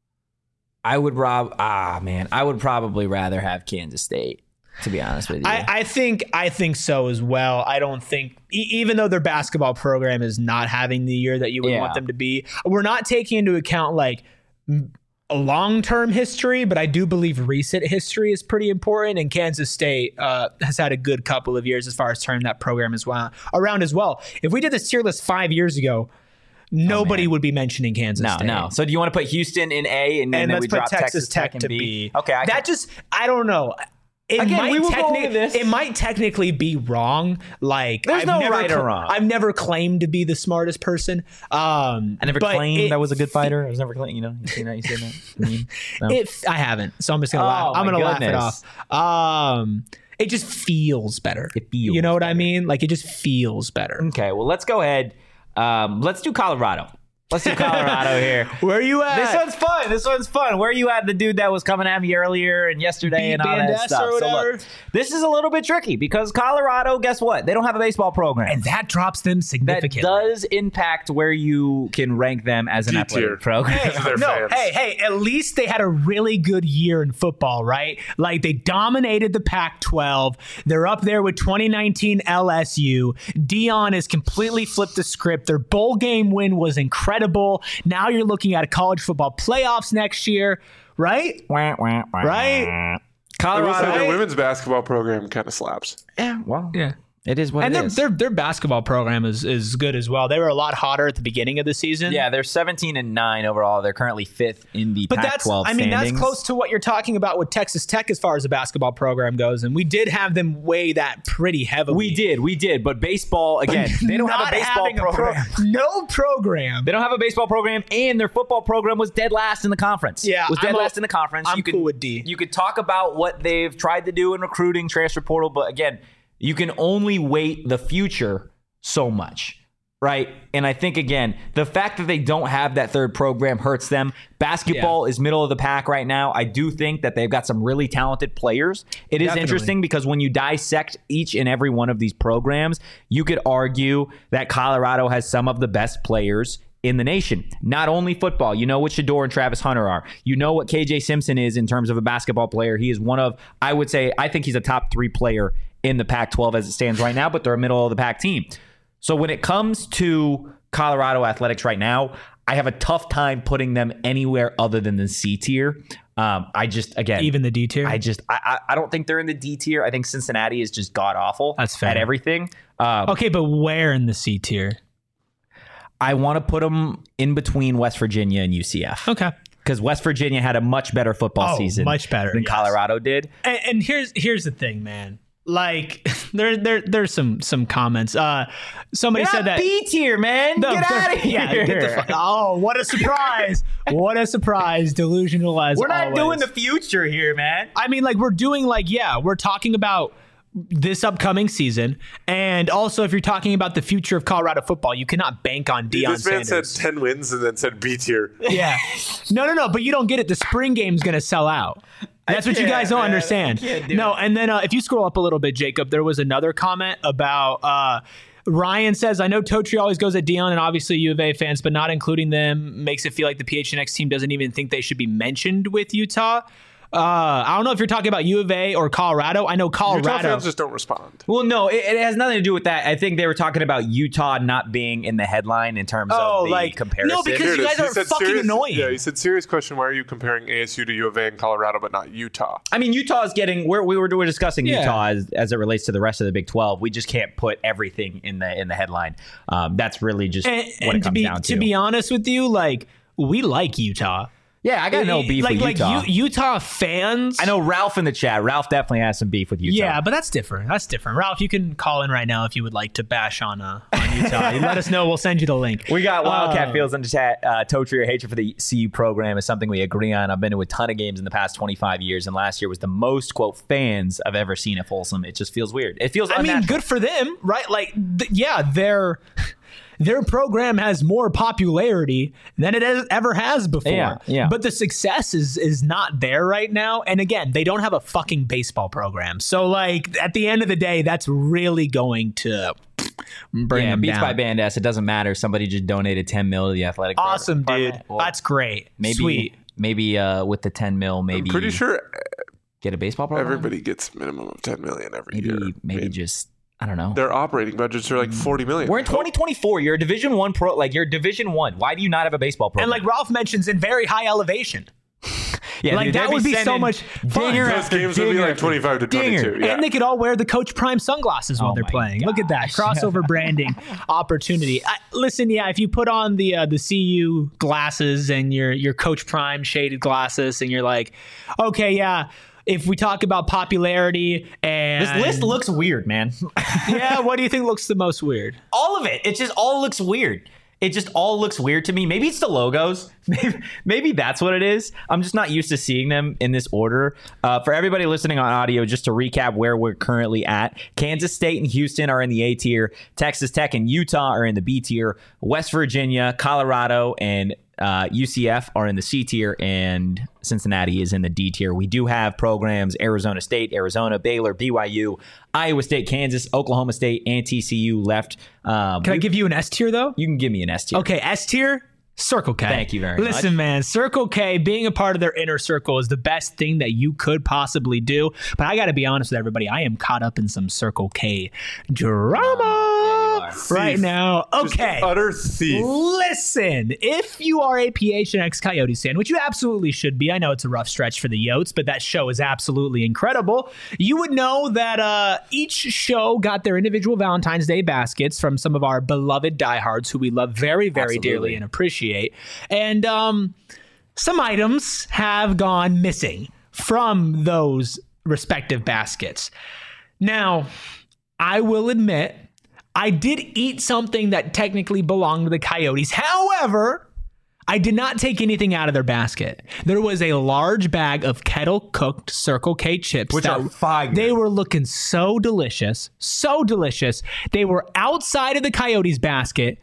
Speaker 1: I would rob. Ah, man, I would probably rather have Kansas State, to be honest with you.
Speaker 2: I, I think I think so as well. I don't think, e- even though their basketball program is not having the year that you would
Speaker 1: Yeah.
Speaker 2: want them to be, we're not taking into account like m- a long-term history, but I do believe recent history is pretty important. And Kansas State uh, has had a good couple of years as far as turning that program as well around as well. If we did this tier list five years ago, nobody would be mentioning Kansas
Speaker 1: no,
Speaker 2: State.
Speaker 1: no. So do you want to put Houston in A and then,
Speaker 2: And
Speaker 1: then
Speaker 2: let's
Speaker 1: we
Speaker 2: put
Speaker 1: drop
Speaker 2: Texas,
Speaker 1: Texas Tech,
Speaker 2: Tech
Speaker 1: in
Speaker 2: to
Speaker 1: B?
Speaker 2: B.
Speaker 1: Okay, I
Speaker 2: that
Speaker 1: can,
Speaker 2: just I don't know. It
Speaker 1: Again,
Speaker 2: might
Speaker 1: we will go
Speaker 2: techni-
Speaker 1: over this.
Speaker 2: It might technically be wrong. Like
Speaker 1: There's
Speaker 2: I've
Speaker 1: no
Speaker 2: never
Speaker 1: right or
Speaker 2: cl-
Speaker 1: wrong.
Speaker 2: I've never claimed to be the smartest person. Um,
Speaker 1: I never
Speaker 2: but
Speaker 1: claimed
Speaker 2: it-
Speaker 1: I was a good fighter. I was never claimed. You know, you seen that? You seen that? I mean, no.
Speaker 2: It, I haven't, so I'm just gonna
Speaker 1: Oh,
Speaker 2: laugh. I'm
Speaker 1: my
Speaker 2: gonna laugh it
Speaker 1: goodness.
Speaker 2: off. Um, it just feels better.
Speaker 1: It feels
Speaker 2: You know what I
Speaker 1: better.
Speaker 2: mean? Like it just feels better.
Speaker 1: Okay, well, let's go ahead. Um, let's do Colorado. Let's do Colorado here.
Speaker 2: Where are you at?
Speaker 1: This one's fun. This one's fun. Where are you at? The dude that was coming at me earlier and yesterday
Speaker 2: Beat
Speaker 1: and all
Speaker 2: Van
Speaker 1: that
Speaker 2: Ness
Speaker 1: stuff.
Speaker 2: or
Speaker 1: So
Speaker 2: whatever?
Speaker 1: look, this is a little bit tricky because Colorado, guess what? They don't have a baseball program.
Speaker 2: and that drops them
Speaker 1: that
Speaker 2: significantly.
Speaker 1: does impact where you can rank them as an
Speaker 3: D
Speaker 1: athletic
Speaker 3: tier.
Speaker 1: program.
Speaker 2: Hey,
Speaker 3: They're
Speaker 2: no,
Speaker 3: fans.
Speaker 2: hey, hey, at least they had a really good year in football, right? Like they dominated the Pac twelve. They're up there with twenty nineteen L S U. Dion has completely flipped the script. Their bowl game win was incredible. Now you're looking at a college football playoffs next year, right?
Speaker 1: Wah, wah, wah.
Speaker 2: Right?
Speaker 3: I will say
Speaker 1: Colorado.
Speaker 3: their women's basketball program kind of slaps.
Speaker 1: Yeah, well,
Speaker 2: Yeah.
Speaker 1: it is what
Speaker 2: And
Speaker 1: it
Speaker 2: their,
Speaker 1: is.
Speaker 2: their their basketball program is is good as well. They were a lot hotter at the beginning of the season.
Speaker 1: Yeah, they're seventeen and nine overall. They're currently fifth in the
Speaker 2: But
Speaker 1: Pac
Speaker 2: that's,
Speaker 1: twelve
Speaker 2: I mean,
Speaker 1: standings.
Speaker 2: that's close to what you're talking about with Texas Tech as far as the basketball program goes. And we did have them weigh that pretty heavily.
Speaker 1: We did, we did. But baseball, again, they don't have
Speaker 2: Not
Speaker 1: a baseball
Speaker 2: having pro-
Speaker 1: program.
Speaker 2: no program.
Speaker 1: They don't have a baseball program, and their football program was dead last in the conference.
Speaker 2: Yeah,
Speaker 1: was dead
Speaker 2: I'm o-
Speaker 1: last in the conference.
Speaker 2: I'm
Speaker 1: you could,
Speaker 2: cool with D.
Speaker 1: You could talk about what they've tried to do in recruiting, transfer portal, but again, you can only weight the future so much. right? And I think, again, the fact that they don't have that third program hurts them. Basketball yeah. is middle of the pack right now. I do think that they've got some really talented players. It is Definitely. interesting because when you dissect each and every one of these programs, you could argue that Colorado has some of the best players in the nation. Not only football. You know what Shedeur and Travis Hunter are. You know what K J Simpson is in terms of a basketball player. He is one of, I would say, I think he's a top three player in the Pac twelve as it stands right now, but they're a middle of the pack team. So when it comes to Colorado athletics right now, I have a tough time putting them anywhere other than the C tier. Um, I just, again,
Speaker 2: even the D tier.
Speaker 1: I just, I, I don't think they're in the D tier. I think Cincinnati is just god awful.
Speaker 2: That's fair.
Speaker 1: At everything. Um,
Speaker 2: okay, but where in the C tier?
Speaker 1: I want to put them in between West Virginia and U C F.
Speaker 2: Okay.
Speaker 1: Because West Virginia had a much better football
Speaker 2: oh,
Speaker 1: season,
Speaker 2: much better
Speaker 1: than
Speaker 2: yes.
Speaker 1: Colorado did.
Speaker 2: And, and here's here's the thing, man. Like there there there's some some comments. Uh, somebody
Speaker 1: You're
Speaker 2: said
Speaker 1: not
Speaker 2: that
Speaker 1: B tier, man.
Speaker 2: No,
Speaker 1: get out of here.
Speaker 2: Yeah, get the fuck. Oh, what a surprise! What a surprise! Delusional as
Speaker 1: We're not
Speaker 2: always.
Speaker 1: doing the future here, man.
Speaker 2: I mean, like we're doing like yeah, we're talking about this upcoming season, and also if you're talking about the future of Colorado football, you cannot bank on Deion
Speaker 3: This man
Speaker 2: Sanders.
Speaker 3: said ten wins and then said B tier.
Speaker 2: Yeah, no, no, no. But you don't get it. The spring game's gonna sell out. That's what you guys don't
Speaker 1: man.
Speaker 2: understand.
Speaker 1: Do
Speaker 2: no,
Speaker 1: it.
Speaker 2: and then uh, if you scroll up a little bit, Jacob, there was another comment about uh, Ryan says, I know Totri always goes at Deion and obviously U of A fans, but not including them makes it feel like the P H N X team doesn't even think they should be mentioned with Utah. Uh, I don't know if you're talking about U of A or Colorado. I know Colorado.
Speaker 3: Utah fans just don't respond.
Speaker 1: Well, no, it, it has nothing to do with that. I think they were talking about Utah not being in the headline in terms
Speaker 2: Oh,
Speaker 1: of the
Speaker 2: like-
Speaker 1: comparison.
Speaker 2: no, because
Speaker 3: Here it
Speaker 2: you
Speaker 3: is.
Speaker 2: guys
Speaker 3: He
Speaker 2: are
Speaker 3: said
Speaker 2: fucking
Speaker 3: serious-
Speaker 2: annoying.
Speaker 3: Yeah, he said, serious question, why are you comparing A S U to U of A and Colorado but not Utah?
Speaker 1: I mean, Utah is getting. We're, we were we were discussing
Speaker 2: Yeah.
Speaker 1: Utah as, as it relates to the rest of the Big twelve. We just can't put everything in the in the headline. Um, that's really just
Speaker 2: and,
Speaker 1: what
Speaker 2: and
Speaker 1: it
Speaker 2: to
Speaker 1: comes
Speaker 2: be
Speaker 1: down to.
Speaker 2: to be honest with you, like we like Utah.
Speaker 1: yeah, I got no beef
Speaker 2: like,
Speaker 1: with
Speaker 2: like
Speaker 1: Utah.
Speaker 2: U- Utah fans.
Speaker 1: I know Ralph in the chat. Ralph definitely has some beef with Utah.
Speaker 2: Yeah, but that's different. That's different. Ralph, you can call in right now if you would like to bash on uh, on Utah. You let us know. We'll send you the link.
Speaker 1: We got Wildcat
Speaker 2: Uh,
Speaker 1: Fields in the chat. Uh, Totri or hatred for the C U program is something we agree on. I've been to a ton of games in the past twenty-five years, and last year was the most, quote, fans I've ever seen at Folsom. It just feels weird. It feels
Speaker 2: I mean,
Speaker 1: unnatural.
Speaker 2: good for them, right? Like, th- yeah, their their program has more popularity than it has, ever has before.
Speaker 1: Yeah, yeah.
Speaker 2: But the success is is not there right now. And again, they don't have a fucking baseball program. So, like, at the end of the day, that's really going to bring
Speaker 1: Yeah,
Speaker 2: them
Speaker 1: Beats
Speaker 2: down.
Speaker 1: by Band S. It doesn't matter. Somebody just donated ten mil to the athletic
Speaker 2: Awesome,
Speaker 1: department.
Speaker 2: dude.
Speaker 1: Well,
Speaker 2: That's great.
Speaker 1: maybe,
Speaker 2: Sweet.
Speaker 1: Maybe uh, with the ten mil, maybe
Speaker 3: I'm pretty sure
Speaker 1: get a baseball program.
Speaker 3: everybody gets minimum of ten million every
Speaker 1: maybe
Speaker 3: year.
Speaker 1: maybe
Speaker 3: I mean,
Speaker 1: just I don't know.
Speaker 3: their operating budgets are like forty million.
Speaker 1: We're in twenty twenty-four. You're a Division One pro. Like you're Division One. Why do you not have a baseball program?
Speaker 2: And like Ralph mentions, in very high elevation.
Speaker 1: yeah,
Speaker 2: like,
Speaker 1: dude,
Speaker 2: that
Speaker 1: they'd
Speaker 2: would be so
Speaker 1: sending
Speaker 2: much fun.
Speaker 1: dinger
Speaker 3: Those
Speaker 1: after
Speaker 3: games would be
Speaker 1: dinger
Speaker 3: like
Speaker 1: after
Speaker 3: twenty-five to
Speaker 1: dinger.
Speaker 3: twenty-two. Yeah.
Speaker 2: And they could all wear the Coach Prime sunglasses while
Speaker 1: Oh
Speaker 2: they're
Speaker 1: my
Speaker 2: playing. Look at that
Speaker 1: gosh.
Speaker 2: crossover branding opportunity. I, listen, yeah, if you put on the uh, the C U glasses and your your Coach Prime shaded glasses, and you're like, okay, yeah. If we talk about popularity and
Speaker 1: This list looks weird, man.
Speaker 2: yeah, what do you think looks the most weird?
Speaker 1: all of it. It just all looks weird. It just all looks weird to me. Maybe it's the logos. Maybe, maybe that's what it is. I'm just not used to seeing them in this order. Uh, for everybody listening on audio, just to recap where we're currently at, Kansas State and Houston are in the A tier. Texas Tech and Utah are in the B tier. West Virginia, Colorado, and uh, U C F are in the C tier, and Cincinnati is in the D tier. We do have programs: Arizona State, Arizona, Baylor, B Y U, Iowa State, Kansas, Oklahoma State, and T C U left. Um,
Speaker 2: Can I
Speaker 1: we-
Speaker 2: give you an S tier though?
Speaker 1: you can give me an S tier.
Speaker 2: Okay, S tier, Circle K.
Speaker 1: Thank you very
Speaker 2: Listen,
Speaker 1: much.
Speaker 2: man, Circle K, being a part of their inner circle is the best thing that you could possibly do. But I got to be honest with everybody, I am caught up in some Circle K drama right
Speaker 3: Thief.
Speaker 2: now.
Speaker 3: Just
Speaker 2: Okay.
Speaker 3: utter thief.
Speaker 2: Listen, if you are a P H N X Coyotes fan, which you absolutely should be, I know it's a rough stretch for the Yotes, but that show is absolutely incredible. You would know that uh, each show got their individual Valentine's Day baskets from some of our beloved diehards who we love very, very
Speaker 1: Absolutely.
Speaker 2: dearly and appreciate. And um, some items have gone missing from those respective baskets. Now, I will admit, I did eat something that technically belonged to the Coyotes. However, I did not take anything out of their basket. There was a large bag of kettle-cooked Circle K chips.
Speaker 1: Which
Speaker 2: that
Speaker 1: are fire.
Speaker 2: They were looking so delicious, so delicious. They were outside of the Coyotes basket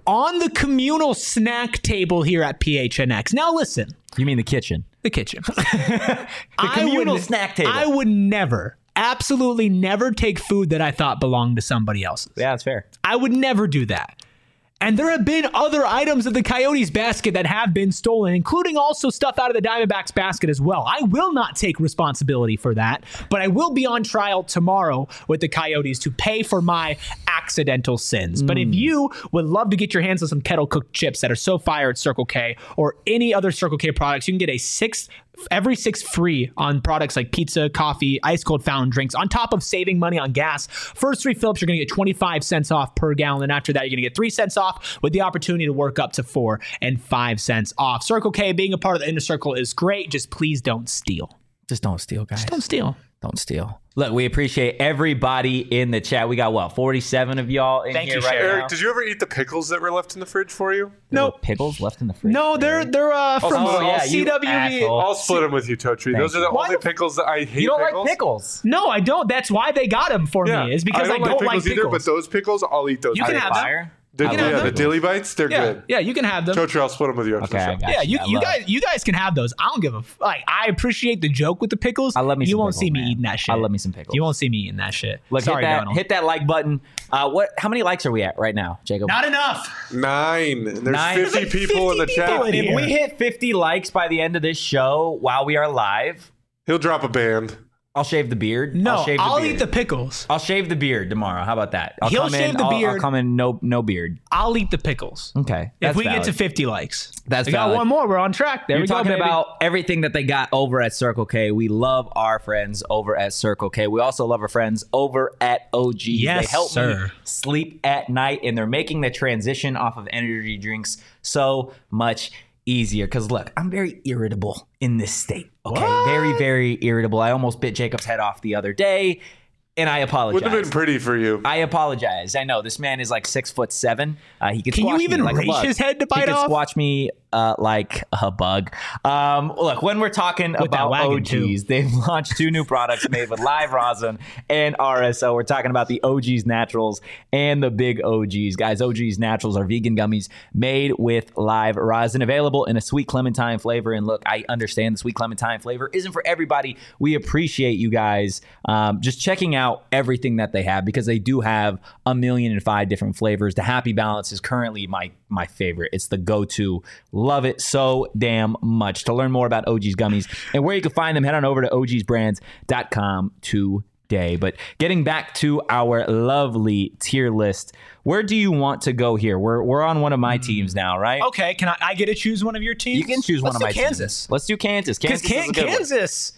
Speaker 2: on the communal snack table here at P H N X. Now listen.
Speaker 1: You mean the kitchen?
Speaker 2: The kitchen.
Speaker 1: The
Speaker 2: I
Speaker 1: communal
Speaker 2: would-
Speaker 1: snack table.
Speaker 2: I would never, absolutely never take food that I thought belonged to somebody else's.
Speaker 1: Yeah, that's fair.
Speaker 2: I would never do that. And there have been other items of the Coyotes basket that have been stolen, including also stuff out of the Diamondbacks basket as well. I will not take responsibility for that, but I will be on trial tomorrow with the Coyotes to pay for my accidental sins. Mm. But if you would love to get your hands on some kettle cooked chips that are so fire at Circle K or any other Circle K products, you can get a six every six free on products like pizza, coffee, ice cold fountain drinks, on top of saving money on gas. First three Phillips, you're going to get twenty-five cents off per gallon. And after that, you're going to get three cents off with the opportunity to work up to four and five cents off. Circle K, being a part of the inner circle is great. Just please don't steal.
Speaker 1: Just don't steal, guys.
Speaker 2: Just don't steal.
Speaker 1: Don't steal. Look, we appreciate everybody in the chat. We got, what, forty-seven of y'all in
Speaker 2: Thank
Speaker 1: here
Speaker 2: you,
Speaker 1: right
Speaker 2: Sharon.
Speaker 1: now?
Speaker 3: Eric, did you ever eat the pickles that were left in the fridge for you?
Speaker 1: There
Speaker 2: No.
Speaker 1: were pickles left in the fridge?
Speaker 2: No, they're they're uh, from
Speaker 3: Oh, yeah,
Speaker 1: you
Speaker 2: C W V.
Speaker 1: asshole.
Speaker 3: I'll split them with you, Totri. Those are the
Speaker 2: Why
Speaker 3: only
Speaker 2: the-
Speaker 3: pickles that I hate.
Speaker 1: You don't
Speaker 3: pickles.
Speaker 1: like pickles.
Speaker 2: No, I don't. That's why they got them for
Speaker 3: Yeah,
Speaker 2: me. Is because I don't,
Speaker 3: like
Speaker 2: like
Speaker 3: pickles either. But
Speaker 2: pickles.
Speaker 3: those pickles, I'll eat those.
Speaker 2: You can
Speaker 3: pickles.
Speaker 2: have them.
Speaker 1: Fire?
Speaker 3: The,
Speaker 1: I
Speaker 3: yeah,
Speaker 1: love
Speaker 3: the
Speaker 1: pickles.
Speaker 3: dilly bites, they're
Speaker 2: yeah,
Speaker 3: good.
Speaker 2: yeah, you can have them.
Speaker 3: Totri, I'll split them with you.
Speaker 1: Okay, I got
Speaker 2: Yeah, you,
Speaker 1: I
Speaker 2: you
Speaker 1: love-
Speaker 2: guys you guys can have those. I don't give a f- like. I appreciate the joke with the pickles.
Speaker 1: I love me
Speaker 2: You
Speaker 1: some
Speaker 2: won't
Speaker 1: pickles,
Speaker 2: see me
Speaker 1: man.
Speaker 2: eating that shit.
Speaker 1: I love me some pickles.
Speaker 2: You won't see me eating that shit.
Speaker 1: Look,
Speaker 2: Sorry,
Speaker 1: hit that,
Speaker 2: Donald.
Speaker 1: hit that like button. Uh, what? How many likes are we at right now, Jacob?
Speaker 2: Not enough.
Speaker 3: Nine. And There's
Speaker 1: Nine.
Speaker 3: fifty
Speaker 2: There's like
Speaker 3: people in the
Speaker 2: fifty
Speaker 3: chat.
Speaker 2: people in
Speaker 1: If
Speaker 2: here.
Speaker 1: we hit fifty likes by the end of this show while we are live,
Speaker 3: He'll drop a band.
Speaker 1: I'll shave the beard.
Speaker 2: No,
Speaker 1: I'll, shave the
Speaker 2: I'll
Speaker 1: beard.
Speaker 2: eat the pickles.
Speaker 1: I'll shave the beard tomorrow. How about that? I'll
Speaker 2: He'll
Speaker 1: come
Speaker 2: shave
Speaker 1: in,
Speaker 2: the
Speaker 1: I'll,
Speaker 2: beard.
Speaker 1: I'll come in no no beard.
Speaker 2: I'll eat the pickles.
Speaker 1: Okay.
Speaker 2: If
Speaker 1: that's
Speaker 2: we
Speaker 1: valid.
Speaker 2: get to fifty likes,
Speaker 1: That's
Speaker 2: we got
Speaker 1: valid.
Speaker 2: one more. We're on track. There
Speaker 1: You're
Speaker 2: we go,
Speaker 1: talking
Speaker 2: baby.
Speaker 1: about everything that they got over at Circle K. We love our friends over at Circle K. We also love our friends over at O G.
Speaker 2: Yes,
Speaker 1: they help
Speaker 2: sir.
Speaker 1: me sleep at night, and they're making the transition off of energy drinks so much easier. Because look, I'm very irritable in this state. Okay,
Speaker 2: What?
Speaker 1: very, very irritable. I almost bit Jacob's head off the other day, and I apologize.
Speaker 3: Wouldn't have been pretty for you.
Speaker 1: I apologize. I know this man is like six foot seven. Uh, he can.
Speaker 2: Can you
Speaker 1: squash
Speaker 2: even
Speaker 1: me like a
Speaker 2: reach
Speaker 1: bug.
Speaker 2: his head to
Speaker 1: He
Speaker 2: bite
Speaker 1: can
Speaker 2: off?
Speaker 1: squash me uh, like a bug. Um, look, when we're talking
Speaker 2: With that
Speaker 1: about
Speaker 2: wagon,
Speaker 1: O Gs,
Speaker 2: too.
Speaker 1: they've launched two new products made with live rosin and R S O. We're talking about the O Gs Naturals and the Big O Gs. Guys, O Gs Naturals are vegan gummies made with live rosin, available in a sweet clementine flavor. And look, I understand the sweet clementine flavor isn't for everybody. We appreciate you guys um, just checking out everything that they have, because they do have a million and five different flavors. The Happy Balance is currently my my favorite. It's the go-to. Love it so damn much. To learn more about O G's gummies and where you can find them, head on over to O Gs brands dot com today. But getting back to our lovely tier list, where do you want to go here? We're we're on one of my teams now, right?
Speaker 2: Okay, can I, I get to choose one of your teams?
Speaker 1: You can choose
Speaker 2: Let's
Speaker 1: one of
Speaker 2: do
Speaker 1: my
Speaker 2: Kansas.
Speaker 1: teams. Let's do Kansas.
Speaker 2: Because
Speaker 1: Kansas is a good one.
Speaker 2: Kansas,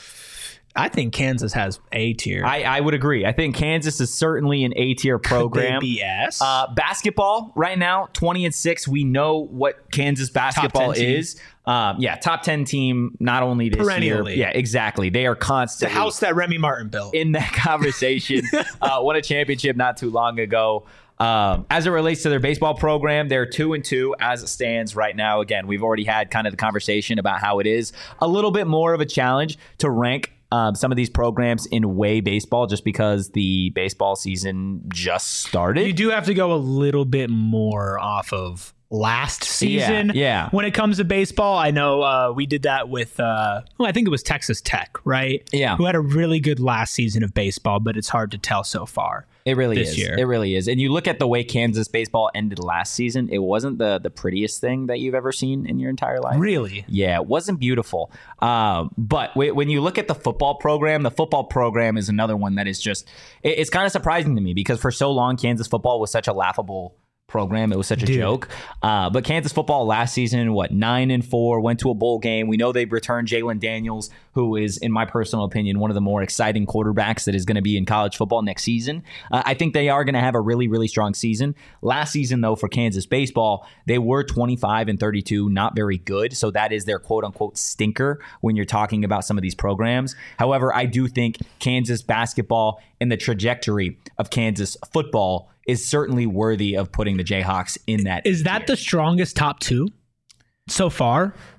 Speaker 2: I think Kansas has A tier.
Speaker 1: I, I would agree. I think Kansas is certainly an A-tier program.
Speaker 2: B S.
Speaker 1: Uh, basketball right now, twenty and six. We know what Kansas basketball
Speaker 2: ten team.
Speaker 1: is. Um, yeah, top ten team. Not only this
Speaker 2: Perennially.
Speaker 1: year. Yeah, exactly. They are
Speaker 2: the
Speaker 1: constantly
Speaker 2: house that Remy Martin built.
Speaker 1: in that conversation. uh, won a championship not too long ago. Um, as it relates to their baseball program, they're two and two as it stands right now. Again, we've already had kind of the conversation about how it is a little bit more of a challenge to rank um, some of these programs in way baseball, just because the baseball season just started.
Speaker 2: You do have to go a little bit more off of last season.
Speaker 1: yeah.
Speaker 2: When it comes to baseball, I know uh, we did that with, uh, well, I think it was Texas Tech, right?
Speaker 1: Yeah.
Speaker 2: Who had a really good last season of baseball, but it's hard to tell so far.
Speaker 1: It really
Speaker 2: this
Speaker 1: is.
Speaker 2: year.
Speaker 1: It really is. And you look at the way Kansas baseball ended last season, it wasn't the the prettiest thing that you've ever seen in your entire life.
Speaker 2: Really?
Speaker 1: Yeah, it wasn't beautiful. Um, but w- when you look at the football program, the football program is another one that is just, it, it's kind of surprising to me, because for so long, Kansas football was such a laughable program. It was such a
Speaker 2: Dude.
Speaker 1: joke. Uh, but Kansas football last season, what, nine and four, went to a bowl game. We know they've returned Jalen Daniels, who is, in my personal opinion, one of the more exciting quarterbacks that is going to be in college football next season. Uh, I think they are going to have a really, really strong season. Last season, though, for Kansas baseball, they were twenty-five and thirty-two, not very good. So that is their quote unquote stinker when you're talking about some of these programs. However, I do think Kansas basketball and the trajectory of Kansas football is certainly worthy of putting the Jayhawks in that.
Speaker 2: Is that
Speaker 1: tier.
Speaker 2: the strongest top two so far?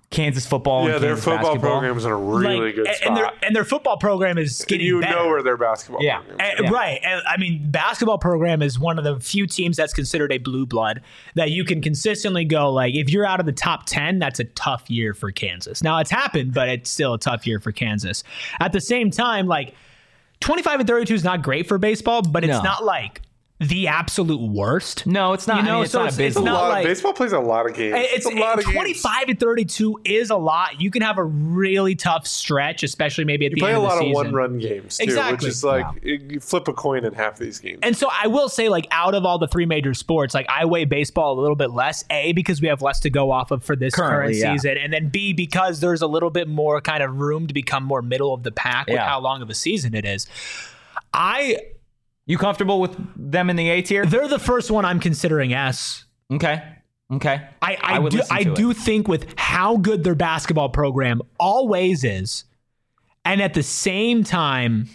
Speaker 1: Kansas football.
Speaker 3: Yeah,
Speaker 1: and
Speaker 3: their
Speaker 1: Kansas
Speaker 3: football
Speaker 1: basketball.
Speaker 3: program's in a really
Speaker 2: Like,
Speaker 3: good
Speaker 2: and,
Speaker 3: spot.
Speaker 2: and their and their football program is getting
Speaker 3: you
Speaker 2: better.
Speaker 3: know where their basketball
Speaker 1: Yeah.
Speaker 3: program
Speaker 2: And-
Speaker 1: Yeah.
Speaker 2: Right. And I mean, basketball program is one of the few teams that's considered a blue blood that you can consistently go, like, if you're out of the top ten, that's a tough year for Kansas. Now, it's happened, but it's still a tough year for Kansas. At the same time, like, twenty-five and thirty-two is not great for baseball, but it's
Speaker 1: No.
Speaker 2: not like the absolute worst.
Speaker 1: No, it's not.
Speaker 2: You know,
Speaker 1: I mean, it's
Speaker 2: so
Speaker 1: not
Speaker 2: it's-
Speaker 1: a
Speaker 2: it's
Speaker 1: big
Speaker 3: A
Speaker 2: not
Speaker 3: lot of-
Speaker 2: like-
Speaker 3: baseball plays a lot of games.
Speaker 2: It's,
Speaker 3: It's, a lot of
Speaker 2: twenty-five
Speaker 3: games.
Speaker 2: and thirty-two is a lot. You can have a really tough stretch, especially maybe at
Speaker 3: You
Speaker 2: the
Speaker 3: play
Speaker 2: end
Speaker 3: a
Speaker 2: of the
Speaker 3: lot of
Speaker 2: season.
Speaker 3: one-run games too,
Speaker 2: Exactly.
Speaker 3: which is like you flip a coin in half these games.
Speaker 2: And so I will say, like, out of all the three major sports, like, I weigh baseball a little bit less, A, because we have less to go off of for this
Speaker 1: Currently,
Speaker 2: current
Speaker 1: yeah.
Speaker 2: season, and then B, because there's a little bit more kind of room to become more middle of the pack with
Speaker 1: Yeah.
Speaker 2: how long of a season it is. I
Speaker 1: You comfortable with them in the A tier?
Speaker 2: They're the first one I'm considering S.
Speaker 1: Okay. Okay.
Speaker 2: I, I,
Speaker 1: would
Speaker 2: do,
Speaker 1: listen
Speaker 2: I
Speaker 1: to it.
Speaker 2: do think with how good their basketball program always is, and at the same time,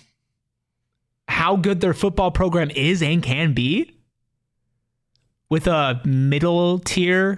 Speaker 2: how good their football program is and can be, with a middle tier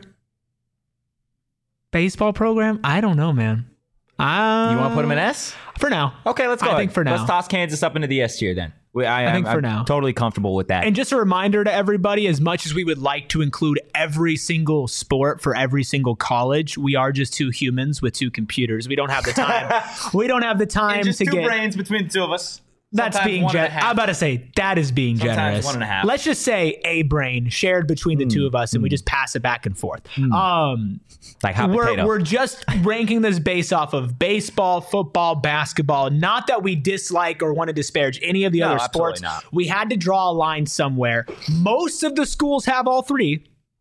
Speaker 2: baseball program, I don't know, man. Uh,
Speaker 1: You want to put them in S?
Speaker 2: For now.
Speaker 1: Okay, let's go.
Speaker 2: I
Speaker 1: ahead.
Speaker 2: think for now.
Speaker 1: Let's toss Kansas up into the S tier then. We, I,
Speaker 2: I think
Speaker 1: I'm,
Speaker 2: for
Speaker 1: I'm
Speaker 2: now.
Speaker 1: totally comfortable with that.
Speaker 2: And just a reminder to everybody, as much as we would like to include every single sport for every single college, we are just two humans with two computers. We don't have the time. we don't have the time
Speaker 1: And just
Speaker 2: to
Speaker 1: two
Speaker 2: get.
Speaker 1: brains between the two of us.
Speaker 2: That's
Speaker 1: Sometimes
Speaker 2: being
Speaker 1: one and a
Speaker 2: generous.
Speaker 1: half.
Speaker 2: I'm about to say that is being
Speaker 1: Sometimes
Speaker 2: generous.
Speaker 1: one and a half.
Speaker 2: Let's just say a brain shared between the two of us, and we just pass it back and forth. Um,
Speaker 1: like hot
Speaker 2: we're,
Speaker 1: potato.
Speaker 2: we're just ranking this based off of baseball, football, basketball. Not that we dislike or want to disparage any of the
Speaker 1: No,
Speaker 2: other
Speaker 1: absolutely
Speaker 2: sports.
Speaker 1: not.
Speaker 2: We had to draw a line somewhere. Most of the schools have all three.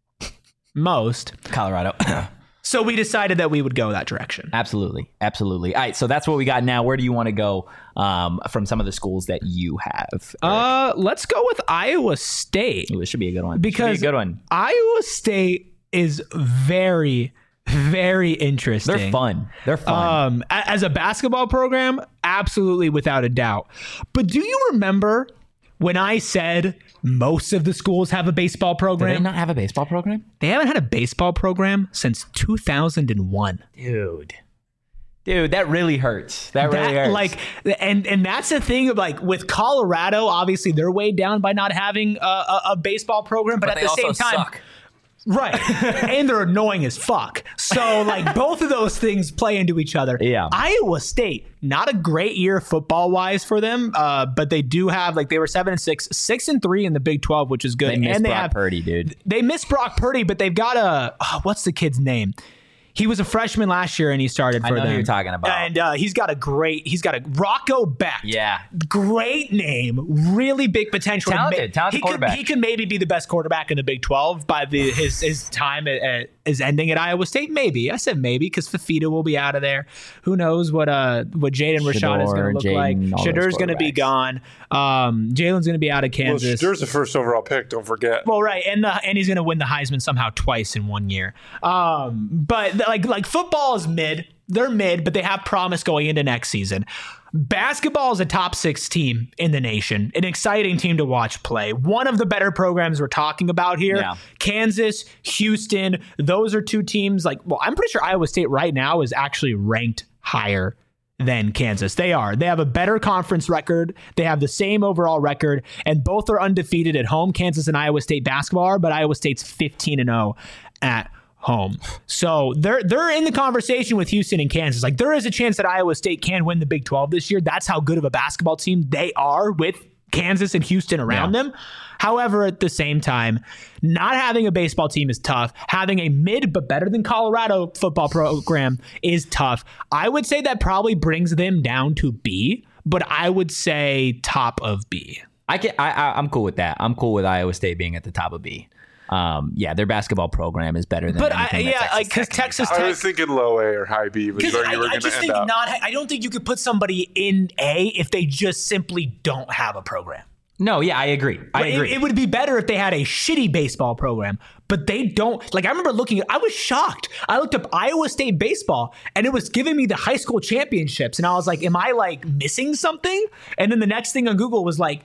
Speaker 2: Most.
Speaker 1: Colorado.
Speaker 2: So we decided that we would go that direction.
Speaker 1: Absolutely. Absolutely. All right. So that's what we got now. Where do you want to go um, from some of the schools that you have? Eric?
Speaker 2: Uh, let's go with Iowa State.
Speaker 1: Ooh, this should be a good one.
Speaker 2: Because
Speaker 1: Should be a good one.
Speaker 2: Iowa State is very, very interesting.
Speaker 1: They're fun. They're fun.
Speaker 2: Um, a- as a basketball program, absolutely without a doubt. But do you remember when I said most of the schools have a baseball
Speaker 1: do they
Speaker 2: program?
Speaker 1: not have a baseball program?
Speaker 2: They haven't had a baseball program since two thousand one.
Speaker 1: Dude. Dude, that really hurts. That really
Speaker 2: That,
Speaker 1: hurts.
Speaker 2: like, and and that's the thing of, like, with Colorado, obviously they're weighed down by not having a, a, a baseball program, but,
Speaker 1: But
Speaker 2: at
Speaker 1: they
Speaker 2: the
Speaker 1: also
Speaker 2: same time,
Speaker 1: suck.
Speaker 2: right? And they're annoying as fuck. So, like, both of those things play into each other.
Speaker 1: Yeah.
Speaker 2: Iowa State, not a great year football wise for them, uh, but they do have, like, they were seven and six, six and three in the Big twelve, which is good.
Speaker 1: They missed
Speaker 2: and they
Speaker 1: Brock
Speaker 2: have
Speaker 1: Purdy, dude.
Speaker 2: They missed Brock Purdy, but they've got a oh, what's the kid's name? He was a freshman last year and he started
Speaker 1: I
Speaker 2: for
Speaker 1: know who
Speaker 2: them.
Speaker 1: you're talking about.
Speaker 2: And uh, he's got a great, he's got a Rocco Beck.
Speaker 1: Yeah.
Speaker 2: Great name, really big potential.
Speaker 1: Talented,
Speaker 2: Ma-
Speaker 1: talented
Speaker 2: he could,
Speaker 1: quarterback.
Speaker 2: he could maybe be the best quarterback in the Big twelve by the his his time at, at, is ending at Iowa State. Maybe I said maybe because Fafita will be out of there. Who knows what uh what Jaden Rashad is going to look
Speaker 1: Jaden,
Speaker 2: like?
Speaker 1: all those
Speaker 2: Shadur's going to be
Speaker 1: quarterbacks.
Speaker 2: gone. Um, Jalen's going to be out of
Speaker 3: Well,
Speaker 2: Kansas.
Speaker 3: Shadur's the first overall pick. Don't forget.
Speaker 2: Well, right, and uh, and he's going to win the Heisman somehow twice in one year. Um, but like like football is mid. They're mid, but they have promise going into next season. Basketball is a top six team in the nation, an exciting team to watch play. One of the better programs we're talking about here.
Speaker 1: Yeah.
Speaker 2: Kansas, Houston, those are two teams. Like, well, I'm pretty sure Iowa State right now is actually ranked higher than Kansas. They are. They have a better conference record. They have the same overall record, and both are undefeated at home. Kansas and Iowa State basketball are, but Iowa State's fifteen and oh at home. So they're they're in the conversation with Houston and Kansas. Like, there is a chance that Iowa State can win the Big twelve this year. That's how good of a basketball team they are with Kansas and Houston around
Speaker 1: Yeah.
Speaker 2: them. However, at the same time, not having a baseball team is tough. Having a mid but better than Colorado football program is tough. I would say that probably brings them down to B, but I would say top of B.
Speaker 1: I can, I, I, I'm cool with that. I'm cool with Iowa State being at the top of B. Um, yeah, their basketball program is better than
Speaker 2: But I,
Speaker 1: anything that
Speaker 2: yeah,
Speaker 1: Texas
Speaker 2: like because
Speaker 1: Tech can
Speaker 2: Texas
Speaker 1: do.
Speaker 3: I
Speaker 2: Tech.
Speaker 3: was thinking low A or high B was
Speaker 2: Because
Speaker 3: where
Speaker 2: I,
Speaker 3: you were
Speaker 2: I
Speaker 3: going to
Speaker 2: just
Speaker 3: end
Speaker 2: think
Speaker 3: up.
Speaker 2: not. I don't think you could put somebody in A if they just simply don't have a program.
Speaker 1: No, yeah, I agree. I
Speaker 2: It-
Speaker 1: agree.
Speaker 2: It, would be better if they had a shitty baseball program, but they don't. Like, I remember looking at, I was shocked. I looked up Iowa State baseball and it was giving me the high school championships. And I was like, am I like missing something? And then the next thing on Google was like,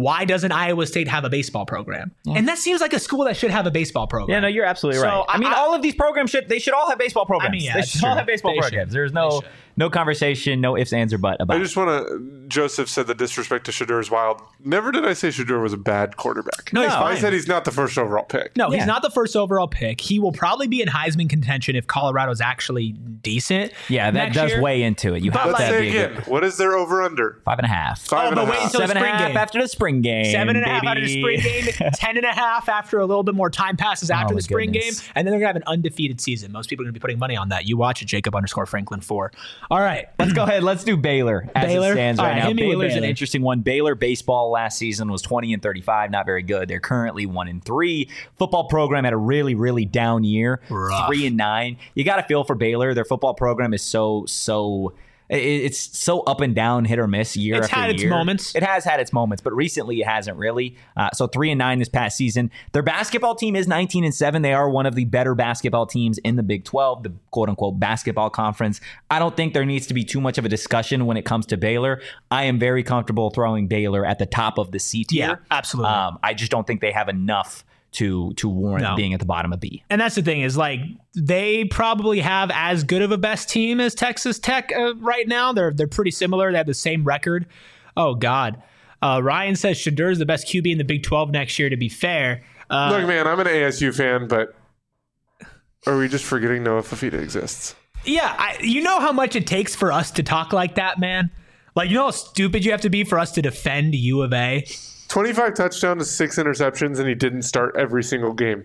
Speaker 2: why doesn't Iowa State have a baseball program? Yeah. And that seems like a school that should have a baseball program.
Speaker 1: Yeah, no, you're absolutely
Speaker 2: so
Speaker 1: right. I, I mean, all of these programs should, they should all have baseball programs.
Speaker 2: I mean, yeah,
Speaker 1: they should
Speaker 2: true.
Speaker 1: all have baseball
Speaker 2: they
Speaker 1: programs.
Speaker 2: Should.
Speaker 1: There's no no conversation, no ifs, ands, or but about
Speaker 3: I
Speaker 1: it.
Speaker 3: just want to, Joseph said the disrespect to Shedeur is wild. Never did I say Shedeur was a bad quarterback.
Speaker 2: No, he's
Speaker 3: I
Speaker 2: fine.
Speaker 3: said he's not the first overall pick.
Speaker 2: No,
Speaker 1: Yeah.
Speaker 2: he's not the first overall pick. He will probably be in Heisman contention if Colorado's actually decent.
Speaker 1: Yeah, that
Speaker 2: next
Speaker 1: does
Speaker 2: year.
Speaker 1: weigh into it. You have
Speaker 2: But
Speaker 3: Let's
Speaker 1: to
Speaker 3: say
Speaker 1: be a
Speaker 3: again,
Speaker 1: good
Speaker 3: what is their over-under?
Speaker 1: five and a half.
Speaker 3: Five
Speaker 2: Oh,
Speaker 3: and
Speaker 2: but
Speaker 3: a
Speaker 2: wait
Speaker 3: half.
Speaker 2: until the
Speaker 1: Seven and a
Speaker 2: spring
Speaker 1: half
Speaker 2: game.
Speaker 1: after the spring game.
Speaker 2: Seven and a half
Speaker 1: baby.
Speaker 2: after the spring game, ten and a half after a little bit more time passes after
Speaker 1: Oh,
Speaker 2: the spring
Speaker 1: goodness.
Speaker 2: game, and then they're gonna have an undefeated season. Most people are gonna be putting money on that. You watch it, Jacob underscore Franklin four. All right,
Speaker 1: Let's go ahead. Let's do Baylor as
Speaker 2: Baylor?
Speaker 1: it stands
Speaker 2: All
Speaker 1: right,
Speaker 2: right,
Speaker 1: now.
Speaker 2: hit me with
Speaker 1: Baylor's an
Speaker 2: Baylor.
Speaker 1: interesting one. Baylor baseball last season was twenty and thirty-five, not very good. They're currently one and three. Football program had a really, really down year,
Speaker 2: Rough.
Speaker 1: three and nine. You got to feel for Baylor. Their football program is so so. it- It's so up and down, hit or miss year
Speaker 2: It's
Speaker 1: after
Speaker 2: had its
Speaker 1: year.
Speaker 2: moments.
Speaker 1: It has had its moments, but recently it hasn't really. Uh, so three and nine this past season. Their basketball team is nineteen and seven. They are one of the better basketball teams in the Big twelve, the quote unquote basketball conference. I don't think there needs to be too much of a discussion when it comes to Baylor. I am very comfortable throwing Baylor at the top of the C tier.
Speaker 2: Yeah, absolutely.
Speaker 1: Um, I just don't think they have enough to to warrant
Speaker 2: No.
Speaker 1: being at the bottom of B.
Speaker 2: and that's the thing is like they probably have as good of a best team as Texas Tech uh, right now. They're they're pretty similar. They have the same record. Oh God, uh, Ryan says Shedeur is the best Q B in the Big twelve next year. To be fair, uh,
Speaker 3: Look, man, I'm an A S U fan, but are we just forgetting Noah Fafita exists?
Speaker 2: yeah, I, you know how much it takes for us to talk like that, man. Like you know how stupid you have to be for us to defend U of A.
Speaker 3: twenty-five touchdowns, six interceptions, and he didn't start every single game.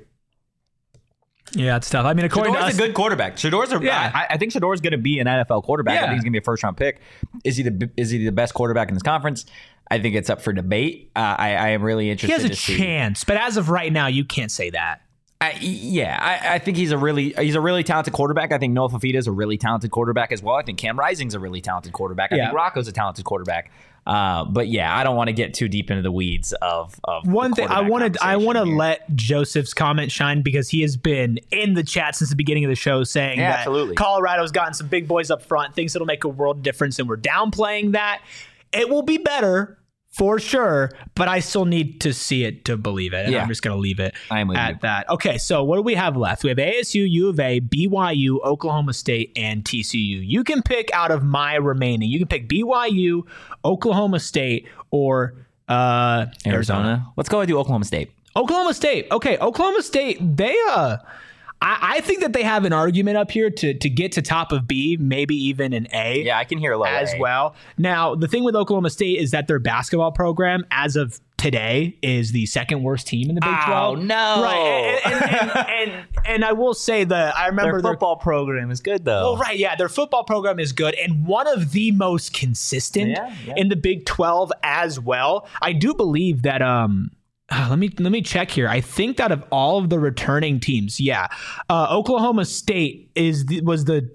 Speaker 2: Yeah, it's tough. I mean, according to
Speaker 1: Shedor's
Speaker 2: us,
Speaker 1: a good quarterback. Shedor's a,
Speaker 2: Yeah.
Speaker 1: I, I think Shedor's going to be an N F L quarterback. I
Speaker 2: Yeah.
Speaker 1: think he's going to be a first round pick. Is he the is he the best quarterback in this conference? I think it's up for debate. Uh, I, I am really
Speaker 2: he
Speaker 1: interested
Speaker 2: has a
Speaker 1: to see.
Speaker 2: chance, but as of right now, you can't say that.
Speaker 1: I, yeah, I, I think he's a really he's a really talented quarterback. I think Noah Fafita is a really talented quarterback as well. I think Cam Rising's a really talented quarterback. I
Speaker 2: Yeah.
Speaker 1: think Rocco's a talented quarterback. Uh, but yeah, I don't want to get too deep into the weeds of of
Speaker 2: One
Speaker 1: the
Speaker 2: thing I
Speaker 1: quarterback
Speaker 2: wanted, I want to
Speaker 1: conversation here.
Speaker 2: let Joseph's comment shine because he has been in the chat since the beginning of the show saying
Speaker 1: Yeah,
Speaker 2: that
Speaker 1: absolutely.
Speaker 2: Colorado's gotten some big boys up front, thinks it'll make a world of difference, and we're downplaying that. It will be better for sure, but I still need to see it to believe it. And
Speaker 1: Yeah.
Speaker 2: I'm just going to leave it
Speaker 1: I am with
Speaker 2: at
Speaker 1: you.
Speaker 2: that. Okay, so what do we have left? We have A S U, U of A, B Y U, Oklahoma State, and T C U. You can pick out of my remaining. You can pick B Y U, Oklahoma State, or uh, Arizona.
Speaker 1: Arizona. Let's go ahead and do Oklahoma State.
Speaker 2: Oklahoma State. Okay, Oklahoma State, they uh I, I think that they have an argument up here to to get to top of B, maybe even an A.
Speaker 1: Yeah, I can hear a low
Speaker 2: As
Speaker 1: A.
Speaker 2: well. Now, the thing with Oklahoma State is that their basketball program, as of today, is the second worst team in the Big
Speaker 1: Oh,
Speaker 2: twelve.
Speaker 1: no.
Speaker 2: Right. And, and, and, and, and I will say that I remember
Speaker 1: Their football program is good though.
Speaker 2: well, right, yeah, their football program is good and one of the most consistent
Speaker 1: Yeah, yeah.
Speaker 2: in the Big twelve as well. I do believe that um uh, let me let me check here. I think that of all of the returning teams, yeah, uh, Oklahoma State is the, was the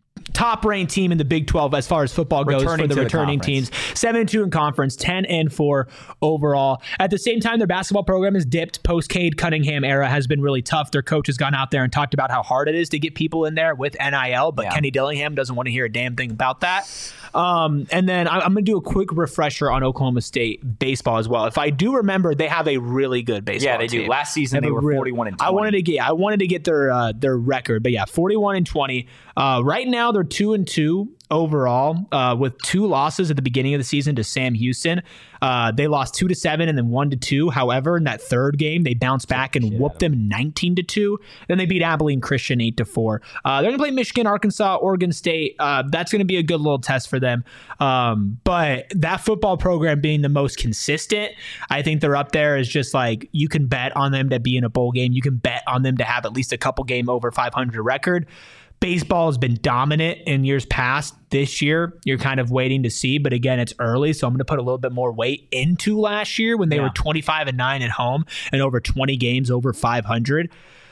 Speaker 2: top ranked team in the Big twelve as far as football goes
Speaker 1: Returning
Speaker 2: for the
Speaker 1: to the
Speaker 2: returning
Speaker 1: conference.
Speaker 2: teams. seven and two in conference, ten and four overall. At the same time, their basketball program is dipped. Post Cade Cunningham era has been really tough. Their coach has gone out there and talked about how hard it is to get people in there with N I L, but
Speaker 1: Yeah.
Speaker 2: Kenny Dillingham doesn't want to hear a damn thing about that. Um, and then I- I'm going to do a quick refresher on Oklahoma State baseball as well. If I do remember, they have a really good baseball
Speaker 1: Yeah, they do.
Speaker 2: team.
Speaker 1: Last season
Speaker 2: Have
Speaker 1: they
Speaker 2: a
Speaker 1: were
Speaker 2: real-
Speaker 1: forty-one and
Speaker 2: I
Speaker 1: twenty.
Speaker 2: wanted to get I wanted to get their uh, their record, but yeah, forty-one and twenty. Uh, right now they're two and two overall, uh, with two losses at the beginning of the season to Sam Houston. Uh, they lost two to seven and then one to two. However, in that third game, they bounced back and whooped them nineteen to two. Then they beat Abilene Christian eight to four. Uh, they're gonna play Michigan, Arkansas, Oregon State. Uh, that's gonna be a good little test for them. Um, but that football program being the most consistent, I think they're up there as just like you can bet on them to be in a bowl game. You can bet on them to have at least a couple game over five hundred record. Baseball has been dominant in years past. This year, you're kind of waiting to see, but again, it's early, so I'm going to put a little bit more weight into last year when they
Speaker 1: Yeah.
Speaker 2: were twenty-five and nine at home and over twenty games over five hundred.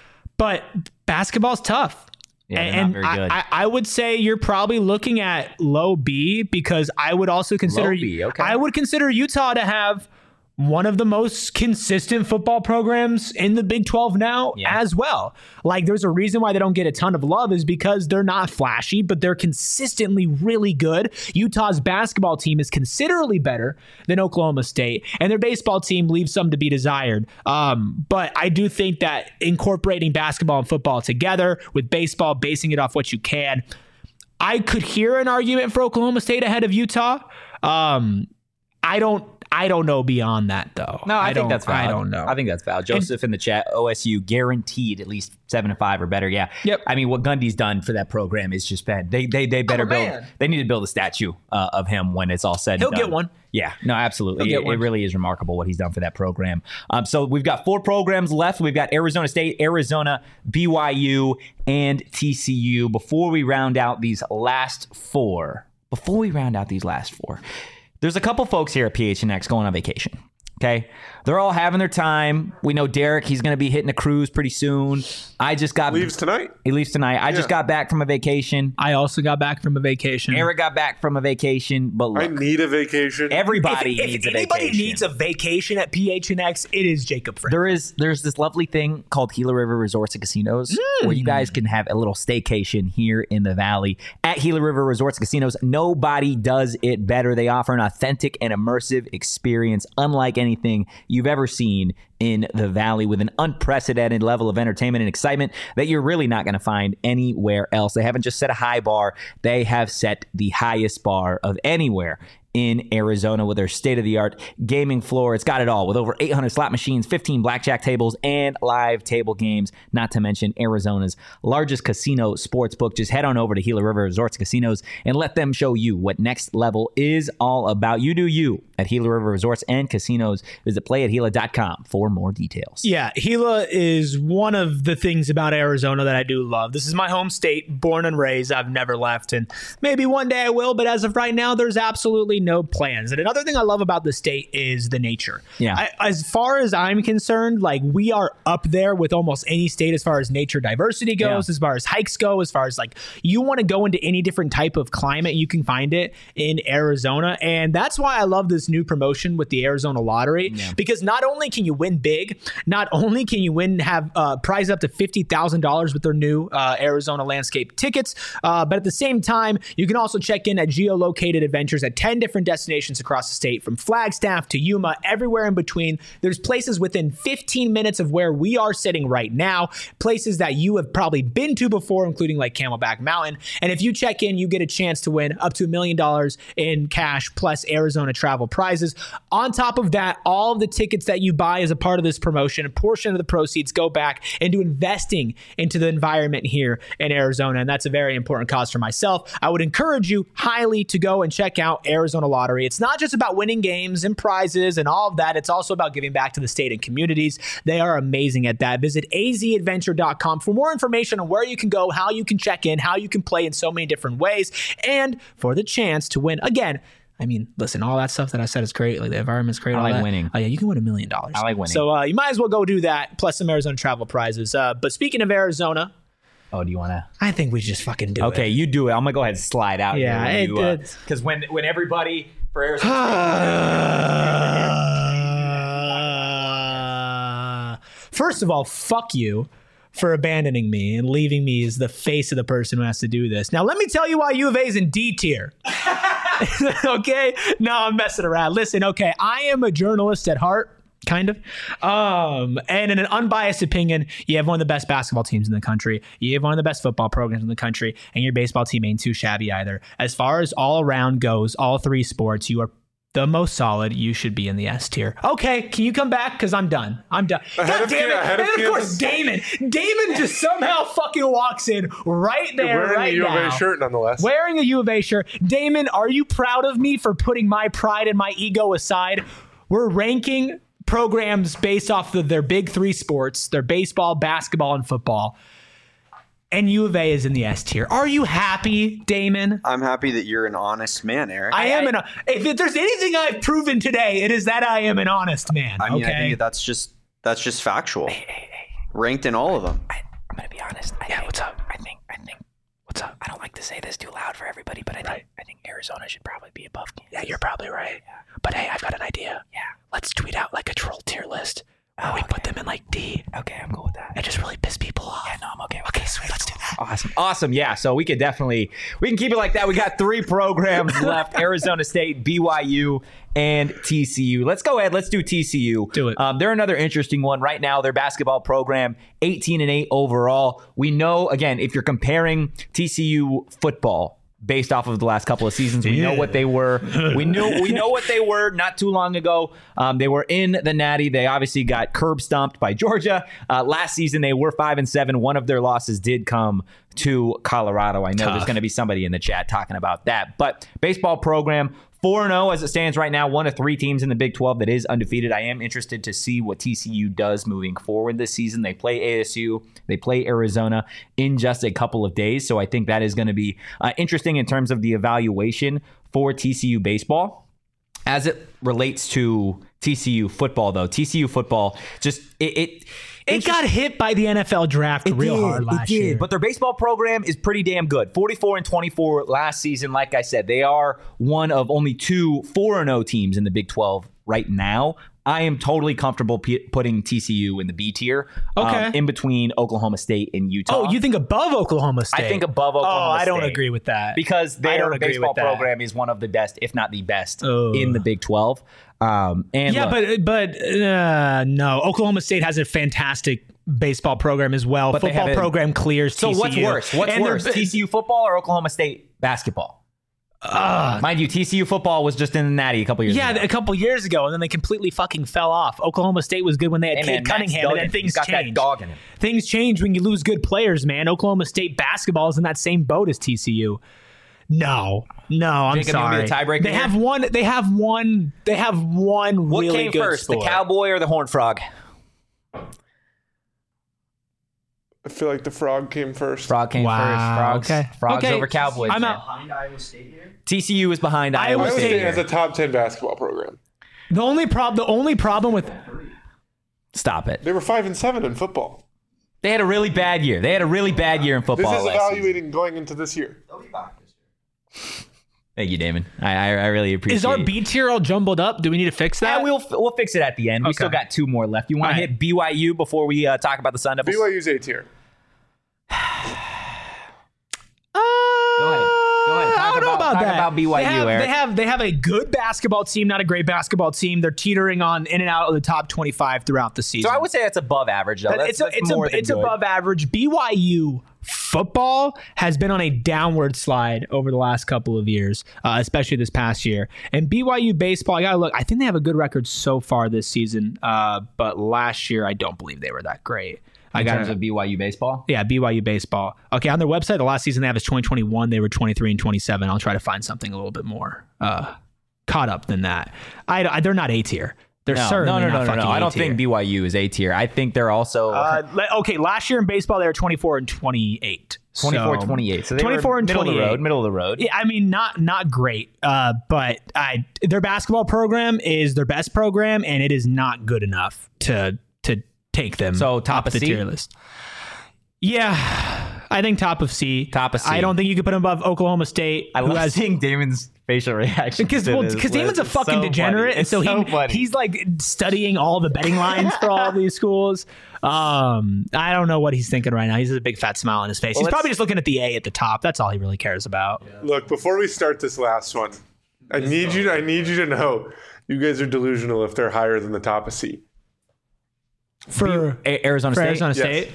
Speaker 2: But basketball's tough.
Speaker 1: Yeah, they're
Speaker 2: and
Speaker 1: not very
Speaker 2: I,
Speaker 1: good.
Speaker 2: I, I would say you're probably looking at low B because I would also consider
Speaker 1: Low B, okay.
Speaker 2: I would consider Utah to have one of the most consistent football programs in the Big twelve now
Speaker 1: Yeah.
Speaker 2: as well. Like, there's a reason why they don't get a ton of love is because they're not flashy, but they're consistently really good. Utah's basketball team is considerably better than Oklahoma State, and their baseball team leaves some to be desired. Um, but I do think that incorporating basketball and football together with baseball, basing it off what you can, I could hear an argument for Oklahoma State ahead of Utah. Um, I don't I don't know beyond that, though.
Speaker 1: No, I, think
Speaker 2: don't,
Speaker 1: that's valid.
Speaker 2: I don't know.
Speaker 1: I think that's valid. Joseph in the chat, O S U guaranteed at least seven to five or better. Yeah.
Speaker 2: Yep.
Speaker 1: I mean, what Gundy's done for that program is just bad. They they they better
Speaker 2: Oh,
Speaker 1: build.
Speaker 2: man.
Speaker 1: They need to build a statue uh, of him when it's all said.
Speaker 2: He'll
Speaker 1: and done.
Speaker 2: get one.
Speaker 1: Yeah. No, absolutely.
Speaker 2: He'll
Speaker 1: It,
Speaker 2: get one.
Speaker 1: it really is remarkable what he's done for that program. Um, so we've got four programs left. We've got Arizona State, Arizona, B Y U, and T C U. Before we round out these last four, before we round out these last four. There's a couple folks here at P H N X going on vacation. Okay. They're all having their time. We know Derek, he's going to be hitting a cruise pretty soon. I just got
Speaker 3: Leaves tonight.
Speaker 1: He leaves tonight. I just
Speaker 3: Yeah.
Speaker 1: got back from a vacation.
Speaker 2: I also got back from a vacation.
Speaker 1: Eric got back from a vacation. But
Speaker 3: I
Speaker 1: look,
Speaker 3: need a vacation.
Speaker 1: everybody
Speaker 2: if,
Speaker 1: needs
Speaker 2: if
Speaker 1: a
Speaker 2: anybody
Speaker 1: vacation.
Speaker 2: needs a vacation at P H N X, it is Jacob Frank.
Speaker 1: There is there's this lovely thing called Gila River Resorts and Casinos where you guys can have a little staycation here in the valley at Gila River Resorts and Casinos. Nobody does it better. They offer an authentic and immersive experience unlike anything you've ever seen in the valley, with an unprecedented level of entertainment and excitement that you're really not going to find anywhere else. They haven't just set a high bar, they have set the highest bar of anywhere in Arizona with their state-of-the-art gaming floor. It's got it all with over eight hundred slot machines, fifteen blackjack tables, and live table games, not to mention Arizona's largest casino sports book. Just head on over to Gila River Resorts Casinos and let them show you what next level is all about. You do you at Gila River Resorts and Casinos. Visit play at gila dot com for more details.
Speaker 2: Yeah, Gila is one of the things about Arizona that I do love. This is my home state, born and raised. I've never left, and maybe one day I will, but as of right now, there's absolutely no plans. And another thing I love about the state is the nature.
Speaker 1: Yeah.
Speaker 2: I, as far as I'm concerned, like, we are up there with almost any state as far as nature diversity goes,
Speaker 1: Yeah.
Speaker 2: as far as hikes go, as far as, like, you want to go into any different type of climate, you can find it in Arizona. And that's why I love this new promotion with the Arizona Lottery, because not only can you win big, not only can you win, have uh, prize up to fifty thousand dollars with their new uh, Arizona landscape tickets, uh, but at the same time, you can also check in at geolocated adventures at ten different destinations across the state, from Flagstaff to Yuma, everywhere in between. There's places within fifteen minutes of where we are sitting right now, places that you have probably been to before, including like Camelback Mountain. And if you check in, you get a chance to win up to a million dollars in cash plus Arizona travel prizes. On top of that, all of the tickets that you buy as a part of this promotion, a portion of the proceeds go back into investing into the environment here in Arizona. And that's a very important cause for myself. I would encourage you highly to go and check out Arizona Lottery. It's not just about winning games and prizes and all of that. It's also about giving back to the state and communities. They are amazing at that. Visit a z adventure dot com for more information on where you can go, how you can check in, how you can play in so many different ways, and for the chance to win. Again, I mean, listen, all that stuff that I said is great. Like, the environment's great.
Speaker 1: I
Speaker 2: all
Speaker 1: like
Speaker 2: that.
Speaker 1: winning.
Speaker 2: Oh, yeah, you can win a million dollars.
Speaker 1: I like winning.
Speaker 2: So uh, you might as well go do that, plus some Arizona travel prizes. Uh, but speaking of Arizona,
Speaker 1: Oh, do you want to?
Speaker 2: I think we just fucking do it.
Speaker 1: Okay, you do it. I'm going to go ahead and slide out
Speaker 2: Yeah, it
Speaker 1: here.
Speaker 2: did.
Speaker 1: Because when, when everybody for Arizona
Speaker 2: First of all, fuck you for abandoning me and leaving me as the face of the person who has to do this. Now, let me tell you why U of A is in D tier. Okay? No, I'm messing around. Listen, okay, I am a journalist at heart. Kind of. Um, and in an unbiased opinion, you have one of the best basketball teams in the country. You have one of the best football programs in the country, and your baseball team ain't too shabby either. As far as all around goes, all three sports, you are the most solid. You should be in the S tier. Okay, can you come back? Because I'm done. I'm done.
Speaker 3: Ahead
Speaker 2: God
Speaker 3: of
Speaker 2: damn
Speaker 3: Kia-
Speaker 2: it.
Speaker 3: ahead of
Speaker 2: And of course,
Speaker 3: Kansas.
Speaker 2: Damon. Damon just somehow fucking walks in right there,
Speaker 3: You're wearing
Speaker 2: right
Speaker 3: a U of
Speaker 2: now.
Speaker 3: A shirt nonetheless.
Speaker 2: Wearing a U of A shirt. Damon, are you proud of me for putting my pride and my ego aside? We're ranking programs based off of their big three sports, their baseball, basketball, and football. And U of A is in the S tier. Are you happy, Damon?
Speaker 5: I'm happy that you're an honest man, Eric.
Speaker 2: I, am an. If there's anything I've proven today, it is that I am an honest man.
Speaker 5: I mean,
Speaker 2: okay?
Speaker 5: I think that's just that's just factual. Ranked in all of them.
Speaker 1: I, I'm gonna be honest. I
Speaker 2: Yeah,
Speaker 1: think,
Speaker 2: what's up?
Speaker 1: I think. I think.
Speaker 2: What's up?
Speaker 1: I don't like to say this too loud for everybody, but I think.
Speaker 2: Right.
Speaker 1: I think Arizona should probably be above Kansas.
Speaker 2: Yeah, you're probably right. But hey, I've got an idea.
Speaker 1: Yeah.
Speaker 2: Let's tweet out
Speaker 1: Awesome. Awesome. Yeah. So we could definitely, we can keep it like that. We got three programs left, Arizona State, B Y U, and T C U. Let's go ahead. Let's do T C U.
Speaker 2: Do it.
Speaker 1: Um, they're another interesting one right now. Their basketball program, eighteen and eight overall. We know, again, if you're comparing T C U football based off of the last couple of seasons, we
Speaker 2: Yeah.
Speaker 1: know what they were. We knew we know what they were not too long ago. Um, they were in the Natty. They obviously got curb stomped by Georgia. Uh, last season, they were five and seven. One of their losses did come to Colorado. I know
Speaker 2: Tough.
Speaker 1: there's going to be somebody in the chat talking about that. But baseball program, four and oh as it stands right now, one of three teams in the Big twelve that is undefeated. I am interested to see what T C U does moving forward this season. They play A S U, they play Arizona in just a couple of days. So I think that is going to be uh, interesting in terms of the evaluation for T C U baseball. As it relates to T C U football, though, T C U football just it it,
Speaker 2: It got hit by the N F L draft real
Speaker 1: did,
Speaker 2: hard last
Speaker 1: it did.
Speaker 2: year.
Speaker 1: But their baseball program is pretty damn good. forty-four and twenty-four last season. Like I said, they are one of only two four and oh teams in the Big twelve right now. I am totally comfortable p- putting T C U in the B tier,
Speaker 2: Okay.
Speaker 1: um, in between Oklahoma State and Utah.
Speaker 2: Oh, you think above Oklahoma State?
Speaker 1: I think above Oklahoma
Speaker 2: Oh, I don't
Speaker 1: State.
Speaker 2: agree with that.
Speaker 1: because
Speaker 2: I
Speaker 1: their
Speaker 2: don't agree
Speaker 1: baseball
Speaker 2: with that.
Speaker 1: program is one of the best, if not the best,
Speaker 2: Oh.
Speaker 1: in the Big twelve. Um, and
Speaker 2: Yeah,
Speaker 1: look,
Speaker 2: but but uh, no, Oklahoma State has a fantastic baseball program as well.
Speaker 1: But they
Speaker 2: Football
Speaker 1: haven't-
Speaker 2: program clears
Speaker 1: so
Speaker 2: T C U.
Speaker 1: what's worse? What's
Speaker 2: And they're-
Speaker 1: worse, T C U football or Oklahoma State basketball?
Speaker 2: Uh,
Speaker 1: Mind you, T C U football was just in the Natty a couple years
Speaker 2: yeah,
Speaker 1: ago.
Speaker 2: a couple years ago, and then they completely fucking fell off. Oklahoma State was good when they had
Speaker 1: Hey,
Speaker 2: Cade
Speaker 1: man, Max
Speaker 2: Cunningham, and
Speaker 1: Duggan,
Speaker 2: then
Speaker 1: he's
Speaker 2: things
Speaker 1: got that
Speaker 2: change.
Speaker 1: dog in him.
Speaker 2: Things change when you lose good players, man. Oklahoma State basketball is in that same boat as T C U. No, no, I'm
Speaker 1: Jacob, you want me
Speaker 2: sorry.
Speaker 1: to tiebreaker
Speaker 2: They
Speaker 1: here?
Speaker 2: have one. They have one. They have one
Speaker 1: What
Speaker 2: really
Speaker 1: came
Speaker 2: good
Speaker 1: first,
Speaker 2: sport.
Speaker 1: the cowboy or the horned frog?
Speaker 3: I feel like the frog came first.
Speaker 1: Frog came
Speaker 2: Wow,
Speaker 1: first. Frogs,
Speaker 2: okay.
Speaker 1: frogs
Speaker 2: Okay.
Speaker 1: over Cowboys.
Speaker 2: I'm
Speaker 1: man.
Speaker 2: out.
Speaker 6: Behind Iowa State here?
Speaker 1: T C U is behind
Speaker 2: Iowa
Speaker 1: Iowa
Speaker 3: Iowa
Speaker 1: State.
Speaker 3: State has a top ten basketball program.
Speaker 2: The only prob the only problem with
Speaker 1: Stop it.
Speaker 3: They were five and seven in football.
Speaker 1: They had a really bad year. They had a really bad year in
Speaker 3: This
Speaker 1: football.
Speaker 3: is
Speaker 1: last season.
Speaker 3: evaluating going into this year.
Speaker 6: They'll be back this year.
Speaker 1: Thank you, Damon. I, I, I really appreciate
Speaker 2: is our
Speaker 1: it.
Speaker 2: B tier all jumbled up? Do we need to fix that?
Speaker 1: Yeah, we'll we'll fix it at the end. We
Speaker 2: Okay.
Speaker 1: still got two more left. You want
Speaker 2: All
Speaker 1: to
Speaker 2: right.
Speaker 1: hit B Y U before we uh, talk about the Sun Devils?
Speaker 3: B Y U's A tier.
Speaker 1: Go ahead. Go ahead. Talk
Speaker 2: I don't know
Speaker 1: about-
Speaker 2: about
Speaker 1: talk
Speaker 2: that.
Speaker 1: about B Y U,
Speaker 2: They have,
Speaker 1: Eric.
Speaker 2: they have they have a good basketball team, not a great basketball team. They're teetering on in and out of the top twenty-five throughout the season.
Speaker 1: So I would say that's above average, though.
Speaker 2: But
Speaker 1: That's,
Speaker 2: it's a,
Speaker 1: that's
Speaker 2: it's
Speaker 1: more
Speaker 2: a,
Speaker 1: than
Speaker 2: it's
Speaker 1: good.
Speaker 2: above average. B Y U football has been on a downward slide over the last couple of years, uh, especially this past year. And B Y U baseball, I gotta look. I think they have a good record so far this season, uh, but last year I don't believe they were that great. I
Speaker 1: in
Speaker 2: got
Speaker 1: terms of B Y U baseball.
Speaker 2: yeah, B Y U baseball. Okay, on their website, the last season they have is twenty twenty-one. They were twenty-three and twenty-seven. I'll try to find something a little bit more uh, caught up than that. I, I they're not A tier. They're
Speaker 1: No,
Speaker 2: certainly
Speaker 1: no, no,
Speaker 2: not
Speaker 1: no, no,
Speaker 2: fucking
Speaker 1: no. I don't
Speaker 2: A-tier.
Speaker 1: think B Y U is A tier. I think they're also
Speaker 2: Uh, le- okay, last year in baseball they were twenty-four and twenty-eight.
Speaker 1: twenty-four,
Speaker 2: So-
Speaker 1: twenty-eight. So they
Speaker 2: twenty-four
Speaker 1: were
Speaker 2: and
Speaker 1: middle of the
Speaker 2: twenty-eight.
Speaker 1: road. Middle of the road.
Speaker 2: Yeah, I mean, not not great, uh, but I their basketball program is their best program, and it is not good enough to to take them
Speaker 1: So, top
Speaker 2: up
Speaker 1: of
Speaker 2: the
Speaker 1: C?
Speaker 2: tier list. Yeah, I think top of C.
Speaker 1: Top of C.
Speaker 2: I don't think you could put them above Oklahoma State.
Speaker 1: I
Speaker 2: who
Speaker 1: love
Speaker 2: has
Speaker 1: seeing Damon's facial reaction
Speaker 2: because
Speaker 1: to
Speaker 2: well,
Speaker 1: this
Speaker 2: because Damon's a
Speaker 1: list. It's
Speaker 2: fucking
Speaker 1: so
Speaker 2: degenerate,
Speaker 1: funny.
Speaker 2: and so,
Speaker 1: It's so
Speaker 2: he
Speaker 1: funny.
Speaker 2: he's like studying all the betting lines for all these schools. Um, I don't know what he's thinking right now. He's a big fat smile on his face.
Speaker 1: Well,
Speaker 2: he's probably
Speaker 1: let's-
Speaker 2: just looking at the A at the top. That's all he really cares about.
Speaker 3: Look, before we start this last one, I need you. I need you to know, you guys are delusional if they're higher than the top of C.
Speaker 2: For,
Speaker 1: A- Arizona
Speaker 2: for
Speaker 1: State.
Speaker 2: Arizona
Speaker 3: Yes.
Speaker 2: State.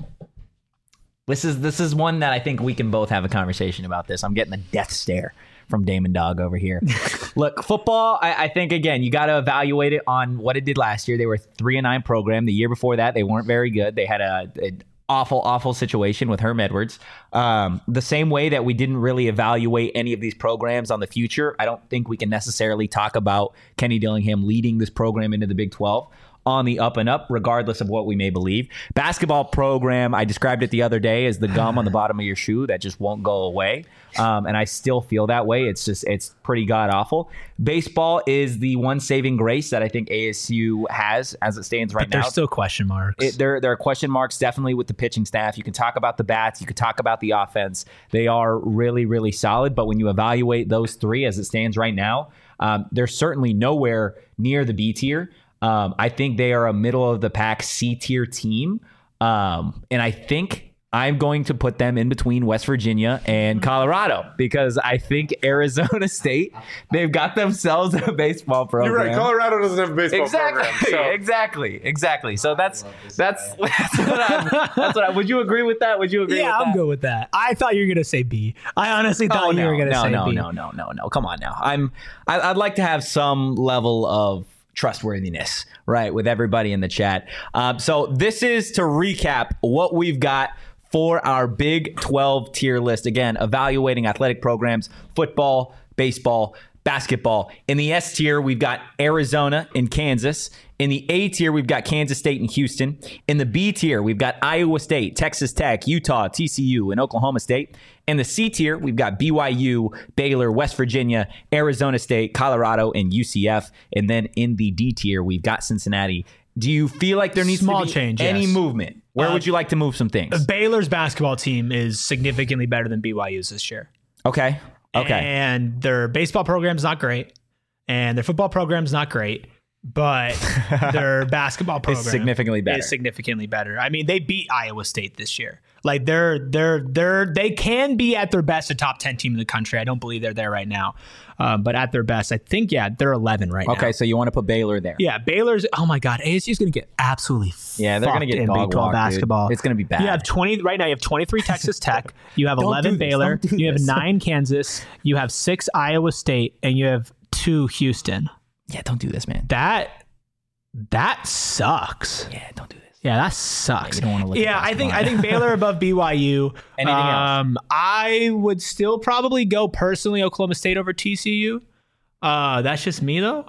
Speaker 1: This is this is one that I think we can both have a conversation about. This. I'm getting the death stare from Damon Dog over here. Look, football. I, I think again you got to evaluate it on what it did last year. They were a three and nine program. The year before that, they weren't very good. They had a, an awful, awful situation with Herm Edwards. Um, the same way that we didn't really evaluate any of these programs on the future, I don't think we can necessarily talk about Kenny Dillingham leading this program into the Big twelve on the up and up, regardless of what we may believe. Basketball program, I described it the other day as the gum on the bottom of your shoe that just won't go away. Um, and I still feel that way. It's just, it's pretty god awful. Baseball is the one saving grace that I think A S U has as it stands right
Speaker 2: But there's
Speaker 1: now.
Speaker 2: still question marks.
Speaker 1: It, there, there are question marks definitely with the pitching staff. You can talk about the bats. You can talk about the offense. They are really, really solid. But when you evaluate those three as it stands right now, um, they're certainly nowhere near the B tier. Um, I think they are a middle of the pack C tier team. Um, and I think I'm going to put them in between West Virginia and Colorado because I think Arizona State, they've got themselves a baseball program.
Speaker 3: You're right. Colorado doesn't have a baseball
Speaker 1: Exactly.
Speaker 3: program. So.
Speaker 1: Exactly. Exactly. So that's that's that's what I'm. That's what I. Would you agree with that? Would you agree?
Speaker 2: Yeah,
Speaker 1: with
Speaker 2: I'm
Speaker 1: that?
Speaker 2: good with that. I thought you were gonna say B. I honestly thought
Speaker 1: Oh,
Speaker 2: you
Speaker 1: no,
Speaker 2: were gonna
Speaker 1: no,
Speaker 2: say
Speaker 1: no,
Speaker 2: B.
Speaker 1: no, no, no, no. Come on now. I'm. I, I'd like to have some level of trustworthiness, right, with everybody in the chat. Um, so this is to recap what we've got for our Big twelve tier list. Again, evaluating athletic programs, football, baseball, basketball. In the S tier, we've got Arizona and Kansas. In the A tier, we've got Kansas State and Houston. In the B tier, we've got Iowa State, Texas Tech, Utah, T C U, and Oklahoma State. In the C tier, we've got B Y U, Baylor, West Virginia, Arizona State, Colorado, and U C F. And then in the D tier, we've got Cincinnati. Do you feel like there needs
Speaker 2: Small
Speaker 1: to be
Speaker 2: change,
Speaker 1: any
Speaker 2: yes.
Speaker 1: movement? Where
Speaker 2: Uh,
Speaker 1: would you like to move some things?
Speaker 2: Baylor's basketball team is significantly better than B Y U's this year.
Speaker 1: Okay. Okay.
Speaker 2: And their baseball program's not great, and their football program's not great, but their basketball program
Speaker 1: significantly better.
Speaker 2: Is significantly better. I mean, they beat Iowa State this year. Like they're they're they're they can be at their best a top ten team in the country. I don't believe they're there right now, uh, but at their best, I think yeah, they're eleven right now.
Speaker 1: Okay, so you want to put Baylor there?
Speaker 2: Yeah, Baylor's. Oh my God, A S U's going to get absolutely.
Speaker 1: Yeah, they're gonna
Speaker 2: fucked
Speaker 1: get
Speaker 2: in
Speaker 1: dog
Speaker 2: Big twelve
Speaker 1: walked, dude.
Speaker 2: basketball.
Speaker 1: It's gonna be bad.
Speaker 2: You have twenty right now. You have twenty-three Texas Tech. You have
Speaker 1: Don't
Speaker 2: eleven
Speaker 1: do this.
Speaker 2: Baylor.
Speaker 1: Don't do
Speaker 2: You have
Speaker 1: this.
Speaker 2: nine Kansas. You have six Iowa State, and you have two Houston.
Speaker 1: Yeah, don't do this, man.
Speaker 2: That that sucks.
Speaker 1: Yeah, don't do this.
Speaker 2: Yeah, that sucks.
Speaker 1: you don't wanna look
Speaker 2: yeah,
Speaker 1: at
Speaker 2: I think
Speaker 1: basketball.
Speaker 2: I think Baylor above B Y U.
Speaker 1: Anything else?
Speaker 2: um, I would still probably go personally Oklahoma State over T C U. Uh, that's just me though.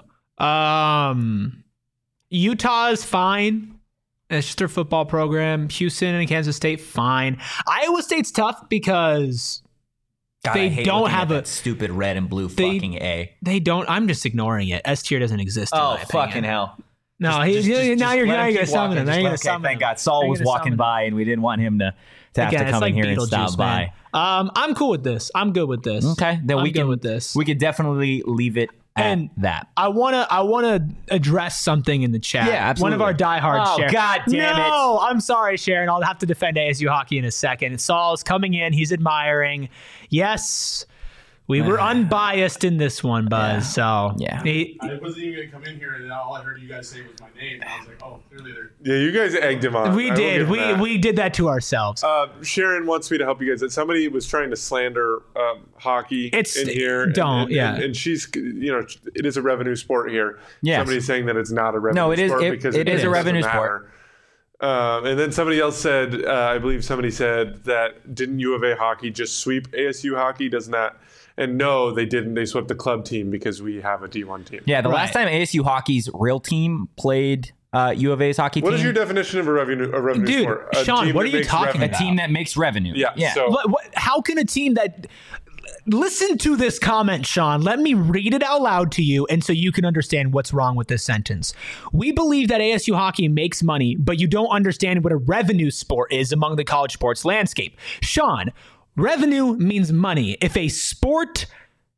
Speaker 2: Um, Utah is fine. It's just their football program. Houston and Kansas State, fine. Iowa State's tough because
Speaker 1: God,
Speaker 2: They
Speaker 1: I hate
Speaker 2: don't
Speaker 1: looking at
Speaker 2: have a-
Speaker 1: that stupid red and blue
Speaker 2: they-
Speaker 1: fucking A.
Speaker 2: they don't. I'm just ignoring it. S tier doesn't exist. In
Speaker 1: Oh,
Speaker 2: my opinion.
Speaker 1: fucking hell.
Speaker 2: No,
Speaker 1: Just-
Speaker 2: he,
Speaker 1: just-
Speaker 2: he-
Speaker 1: just-
Speaker 2: now
Speaker 1: just
Speaker 2: you're
Speaker 1: let
Speaker 2: now you're
Speaker 1: keep
Speaker 2: gonna summon
Speaker 1: walking.
Speaker 2: him. Now
Speaker 1: Just
Speaker 2: you're
Speaker 1: let-
Speaker 2: gonna
Speaker 1: okay,
Speaker 2: summon
Speaker 1: thank
Speaker 2: him.
Speaker 1: God. Saul
Speaker 2: Now
Speaker 1: was
Speaker 2: you're gonna
Speaker 1: walking
Speaker 2: summon
Speaker 1: by, and we didn't want him to, to have
Speaker 2: Again,
Speaker 1: to come
Speaker 2: it's like
Speaker 1: in here and
Speaker 2: Beetlejuice,
Speaker 1: stop by.
Speaker 2: man. Um, I'm cool with this. I'm good with this.
Speaker 1: Okay, then
Speaker 2: I'm
Speaker 1: we
Speaker 2: good
Speaker 1: can
Speaker 2: with this.
Speaker 1: We could definitely leave it at
Speaker 2: And
Speaker 1: that.
Speaker 2: I wanna I wanna address something in the chat.
Speaker 1: Yeah, absolutely.
Speaker 2: One of our diehards,
Speaker 1: Oh,
Speaker 2: Sharon.
Speaker 1: God damn it.
Speaker 2: No, I'm sorry, Sharon. I'll have to defend A S U hockey in a second. Saul's coming in. He's admiring. Yes, we were unbiased in this one, Buzz. So
Speaker 1: Yeah.
Speaker 2: he-
Speaker 7: I wasn't even gonna come in here, and all I heard you guys say was my name. And I was like, oh, clearly they're.
Speaker 3: Yeah, you guys egged him on.
Speaker 2: we
Speaker 3: I will
Speaker 2: did.
Speaker 3: give him
Speaker 2: We
Speaker 3: that.
Speaker 2: we did that to ourselves.
Speaker 3: Uh, Sharon wants me to help you guys. That somebody was trying to slander um, hockey
Speaker 2: It's-
Speaker 3: in here. and-
Speaker 2: don't,
Speaker 3: and,
Speaker 2: yeah.
Speaker 3: And, and she's, you know, it is a revenue sport here.
Speaker 1: Yes.
Speaker 3: Somebody's saying that it's not a revenue
Speaker 1: No, it is-
Speaker 3: sport
Speaker 1: it-
Speaker 3: because
Speaker 1: it is a
Speaker 3: doesn't
Speaker 1: revenue
Speaker 3: matter. Um, and then somebody else said, uh, I believe somebody said that didn't U of A hockey just sweep A S U hockey? Doesn't that? And no, they didn't. They swept the club team because we have a D one team.
Speaker 1: Yeah, the
Speaker 2: Right.
Speaker 1: last time A S U hockey's real team played uh, U of A's hockey
Speaker 3: What
Speaker 1: team,
Speaker 3: is your definition of a revenue, a revenue
Speaker 2: Dude,
Speaker 3: sport? A
Speaker 2: Sean,
Speaker 3: team
Speaker 2: what
Speaker 3: that
Speaker 2: are you
Speaker 3: makes
Speaker 2: talking
Speaker 3: revenue.
Speaker 1: a
Speaker 2: about?
Speaker 1: team that makes revenue.
Speaker 3: Yeah.
Speaker 1: yeah.
Speaker 3: So
Speaker 2: What, what, how can a team that listen to this comment, Sean? Let me read it out loud to you, and so you can understand what's wrong with this sentence. We believe that A S U hockey makes money, but you don't understand what a revenue sport is among the college sports landscape. Sean, revenue means money. If a sport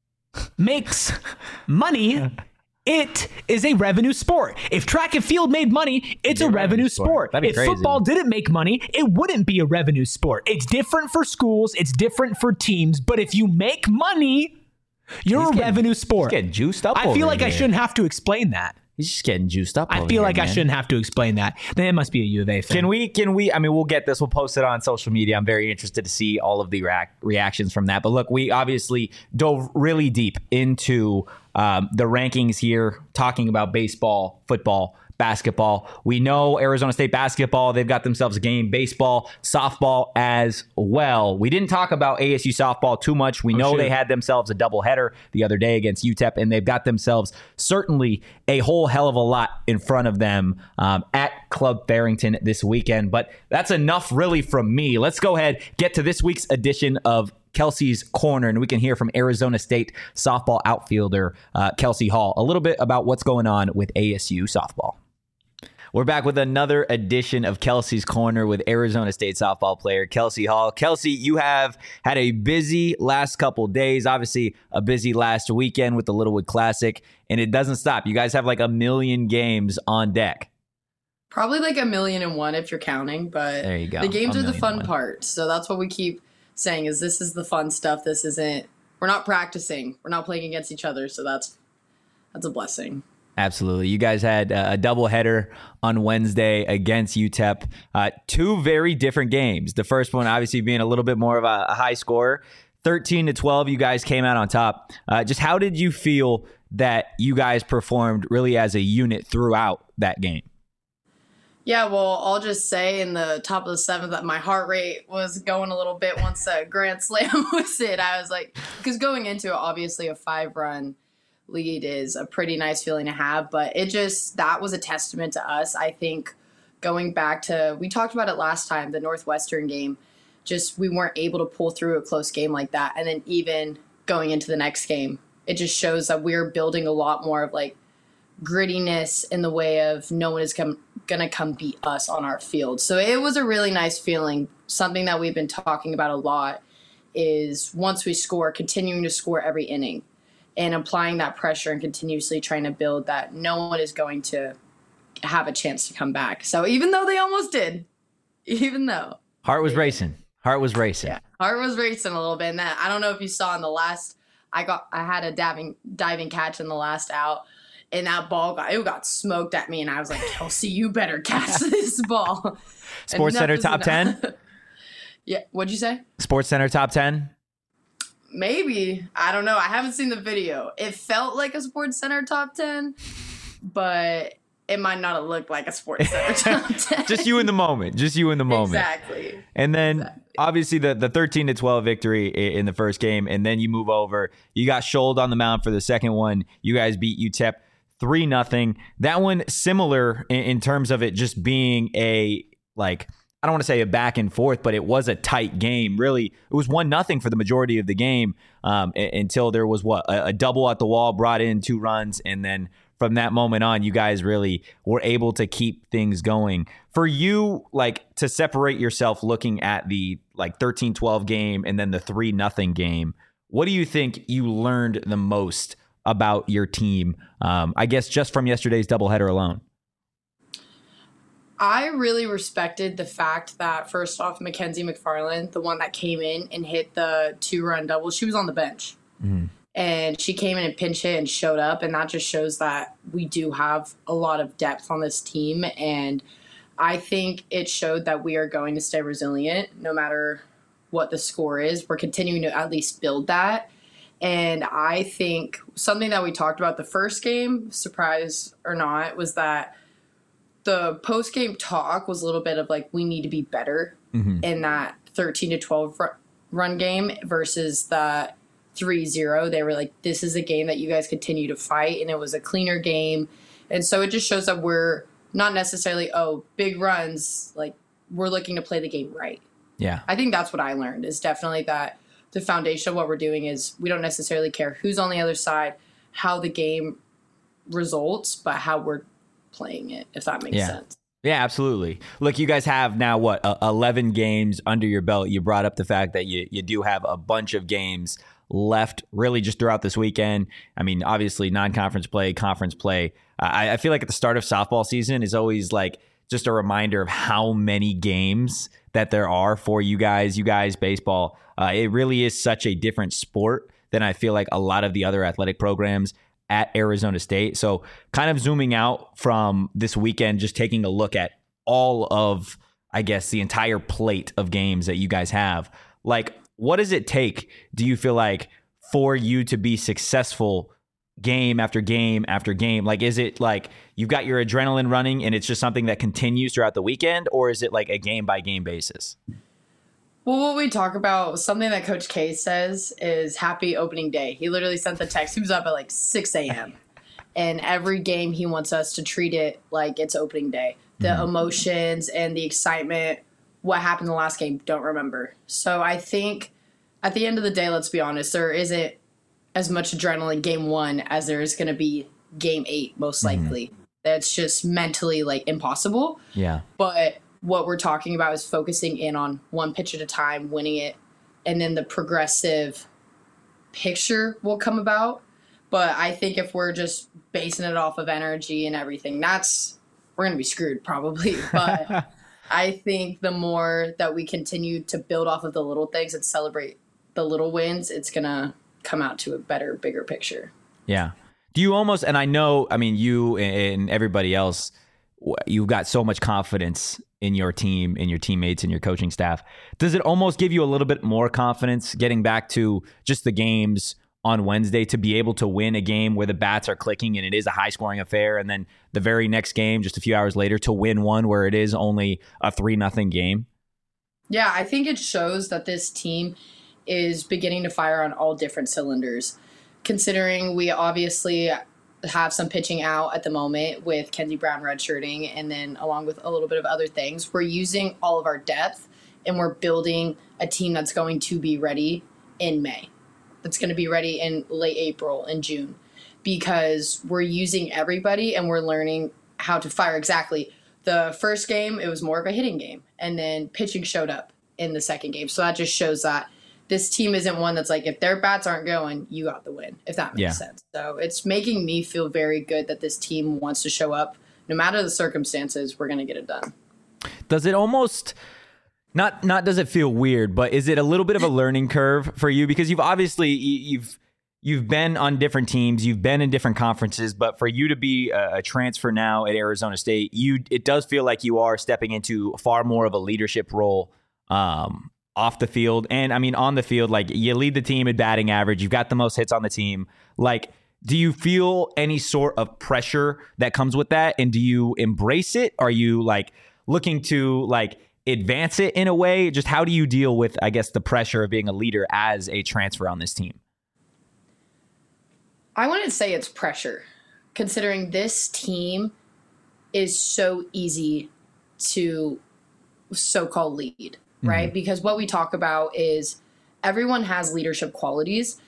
Speaker 2: makes money, it is a revenue sport. If track and field made money, it's a revenue sport.
Speaker 1: That'd be
Speaker 2: If
Speaker 1: crazy.
Speaker 2: football didn't make money, it wouldn't be a revenue sport. It's different for schools, it's different for teams, but if you make money, you're
Speaker 1: He's
Speaker 2: a
Speaker 1: getting-
Speaker 2: revenue sport.
Speaker 1: He's getting juiced up.
Speaker 2: I
Speaker 1: over
Speaker 2: feel like I
Speaker 1: here.
Speaker 2: shouldn't have to explain that.
Speaker 1: He's just getting juiced up.
Speaker 2: I
Speaker 1: over
Speaker 2: feel
Speaker 1: here,
Speaker 2: like I
Speaker 1: man.
Speaker 2: shouldn't have to explain that. Then it must be a U of A fan.
Speaker 1: Can we, can we, I mean, we'll get this, we'll post it on social media. I'm very interested to see all of the reac- reactions from that. But look, we obviously dove really deep into um, the rankings here, talking about baseball, football, basketball. We know Arizona State basketball, they've got themselves a game, baseball, softball as well. We didn't talk about A S U softball too much. We know
Speaker 3: shit.
Speaker 1: they had themselves a doubleheader the other day against U T E P, and they've got themselves certainly a whole hell of a lot in front of them um, at Club Farrington this weekend. But that's enough really from me. Let's go ahead, get to this week's edition of Kelsey's Corner, and we can hear from Arizona State softball outfielder uh, Kelsey Hall a little bit about what's going on with A S U softball. We're back with another edition of Kelsey's Corner with Arizona State softball player Kelsey Hall. Kelsey, you have had a busy last couple days, obviously a busy last weekend with the Littlewood Classic, and it doesn't stop. You guys have like a million games on deck.
Speaker 8: Probably like a million and one if you're counting, but
Speaker 1: There you go.
Speaker 8: the games
Speaker 1: A
Speaker 8: are the
Speaker 1: million
Speaker 8: fun
Speaker 1: and one.
Speaker 8: part. So that's what we keep saying is this is the fun stuff. This isn't, we're not practicing. We're not playing against each other. So that's, that's a blessing.
Speaker 1: Absolutely. You guys had uh, a doubleheader on Wednesday against U T E P. Uh, two very different games. The first one, obviously, being a little bit more of a, a high score. thirteen to twelve, you guys came out on top. Uh, just how did you feel that you guys performed really as a unit throughout that game?
Speaker 8: Yeah, well, I'll just say in the top of the seventh that my heart rate was going a little bit once that grand slam was hit. I was like, because going into it, obviously a five-run lead is a pretty nice feeling to have, but it just, that was a testament to us. I think going back to, we talked about it last time, the Northwestern game, just we weren't able to pull through a close game like that. And then even going into the next game, it just shows that we're building a lot more of like grittiness in the way of no one is come, gonna come beat us on our field. So it was a really nice feeling. Something that we've been talking about a lot is once we score, continuing to score every inning and applying that pressure and continuously trying to build that no one is going to have a chance to come back. So even though they almost did, even though.
Speaker 1: Heart was racing. Heart was racing.
Speaker 8: Yeah, heart was racing a little bit. And that, I don't know if you saw in the last, I got, I had a diving, diving catch in the last out. And that ball got, it got smoked at me. And I was like, Kelsey, you better catch this ball.
Speaker 1: Sports Center top ten?
Speaker 8: Yeah. What'd you say?
Speaker 1: Sports Center top ten?
Speaker 8: Maybe. I don't know. I haven't seen the video. It felt like a Sports Center top ten, but it might not have looked like a Sports Center top ten.
Speaker 1: Just you in the moment. Just you in the moment.
Speaker 8: Exactly.
Speaker 1: And then
Speaker 8: Exactly.
Speaker 1: obviously the, the thirteen to twelve victory i- in the first game. And then you move over. You got Scholled on the mound for the second one. You guys beat U T E P three nothing. That one similar in, in terms of it just being a, like, I don't want to say a back and forth, but it was a tight game. Really, it was one nothing for the majority of the game um, a- until there was what a, a double at the wall brought in two runs, and then from that moment on, you guys really were able to keep things going. For you, like to separate yourself, looking at the like thirteen twelve game and then the three nothing game, what do you think you learned the most about your team? Um, I guess just from yesterday's doubleheader alone.
Speaker 8: I really respected the fact that, first off, Mackenzie McFarland, the one that came in and hit the two-run double, she was on the bench.
Speaker 1: Mm-hmm.
Speaker 8: And she came in and pinch hit and showed up, and that just shows that we do have a lot of depth on this team. And I think it showed that we are going to stay resilient no matter what the score is. We're continuing to at least build that. And I think something that we talked about the first game, surprise or not, was that the post-game talk was a little bit of like, we need to be better
Speaker 1: Mm-hmm.
Speaker 8: in that thirteen to twelve ru- run game versus the three zero. They were like, this is a game that you guys continue to fight, and it was a cleaner game. And so it just shows that we're not necessarily, oh, big runs, like we're looking to play the game right.
Speaker 1: Yeah.
Speaker 8: I think that's what I learned, is definitely that the foundation of what we're doing is we don't necessarily care who's on the other side, how the game results, but how we're playing it, if that makes
Speaker 1: Yeah.
Speaker 8: sense.
Speaker 1: Yeah, absolutely. Look, you guys have now, what, uh, eleven games under your belt. You brought up the fact that you, you do have a bunch of games left really just throughout this weekend. I mean, obviously non-conference play, conference play. I, I feel like at the start of softball season is always like just a reminder of how many games that there are for you guys. You guys, baseball, uh, it really is such a different sport than I feel like a lot of the other athletic programs at Arizona State. So kind of zooming out from this weekend, just taking a look at all of, I guess, the entire plate of games that you guys have. Like, what does it take, do you feel like, for you to be successful game after game after game? Like, is it like you've got your adrenaline running and it's just something that continues throughout the weekend, or is it like a game by game basis?
Speaker 8: Well, what we talk about, something that Coach K says is happy opening day. He literally sent the text. He was up at like six a.m. And every game he wants us to treat it like it's opening day. The mm-hmm. emotions and the excitement, what happened in the last game, don't remember. So I think at the end of the day, let's be honest, there isn't as much adrenaline game one as there is going to be game eight, most likely. Mm-hmm. That's just mentally like impossible.
Speaker 1: Yeah.
Speaker 8: But what we're talking about is focusing in on one pitch at a time, winning it, and then the progressive picture will come about. But I think if we're just basing it off of energy and everything, that's we're going to be screwed probably. But I think the more that we continue to build off of the little things and celebrate the little wins, it's going to come out to a better, bigger picture.
Speaker 1: Yeah. Do you almost, and I know, I mean, you and everybody else, you've got so much confidence in your team, in your teammates, and your coaching staff. Does it almost give you a little bit more confidence getting back to just the games on Wednesday to be able to win a game where the bats are clicking and it is a high scoring affair, and then the very next game, just a few hours later, to win one where it is only a three nothing game?
Speaker 8: Yeah, I think it shows that this team is beginning to fire on all different cylinders, considering we obviously have some pitching out at the moment with Kenzie Brown redshirting, and then along with a little bit of other things, we're using all of our depth and we're building a team that's going to be ready in May. That's going to be ready in late April and June, because we're using everybody and we're learning how to fire exactly. The first game, it was more of a hitting game, and then pitching showed up in the second game. So that just shows that this team isn't one that's like, if their bats aren't going, you got the win, if that makes
Speaker 1: Yeah.
Speaker 8: sense. So it's making me feel very good that this team wants to show up. No matter the circumstances, we're going to get it done.
Speaker 1: Does it almost not not does it feel weird, but is it a little bit of a learning curve for you? Because you've obviously you've you've been on different teams, you've been in different conferences, but for you to be a, a transfer now at Arizona State, you it does feel like you are stepping into far more of a leadership role um, off the field. And I mean, on the field, like, you lead the team in batting average, you've got the most hits on the team. Like, do you feel any sort of pressure that comes with that? And do you embrace it? Are you like looking to like advance it in a way? Just how do you deal with, I guess, the pressure of being a leader as a transfer on this team?
Speaker 8: I wouldn't say it's pressure, considering this team is so easy to so-called lead, right? Mm-hmm. Because what we talk about is everyone has leadership qualities.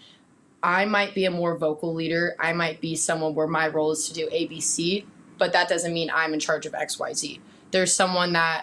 Speaker 8: I might be a more vocal leader. I might be someone where my role is to do A B C, but that doesn't mean I'm in charge of X Y Z. There's someone that,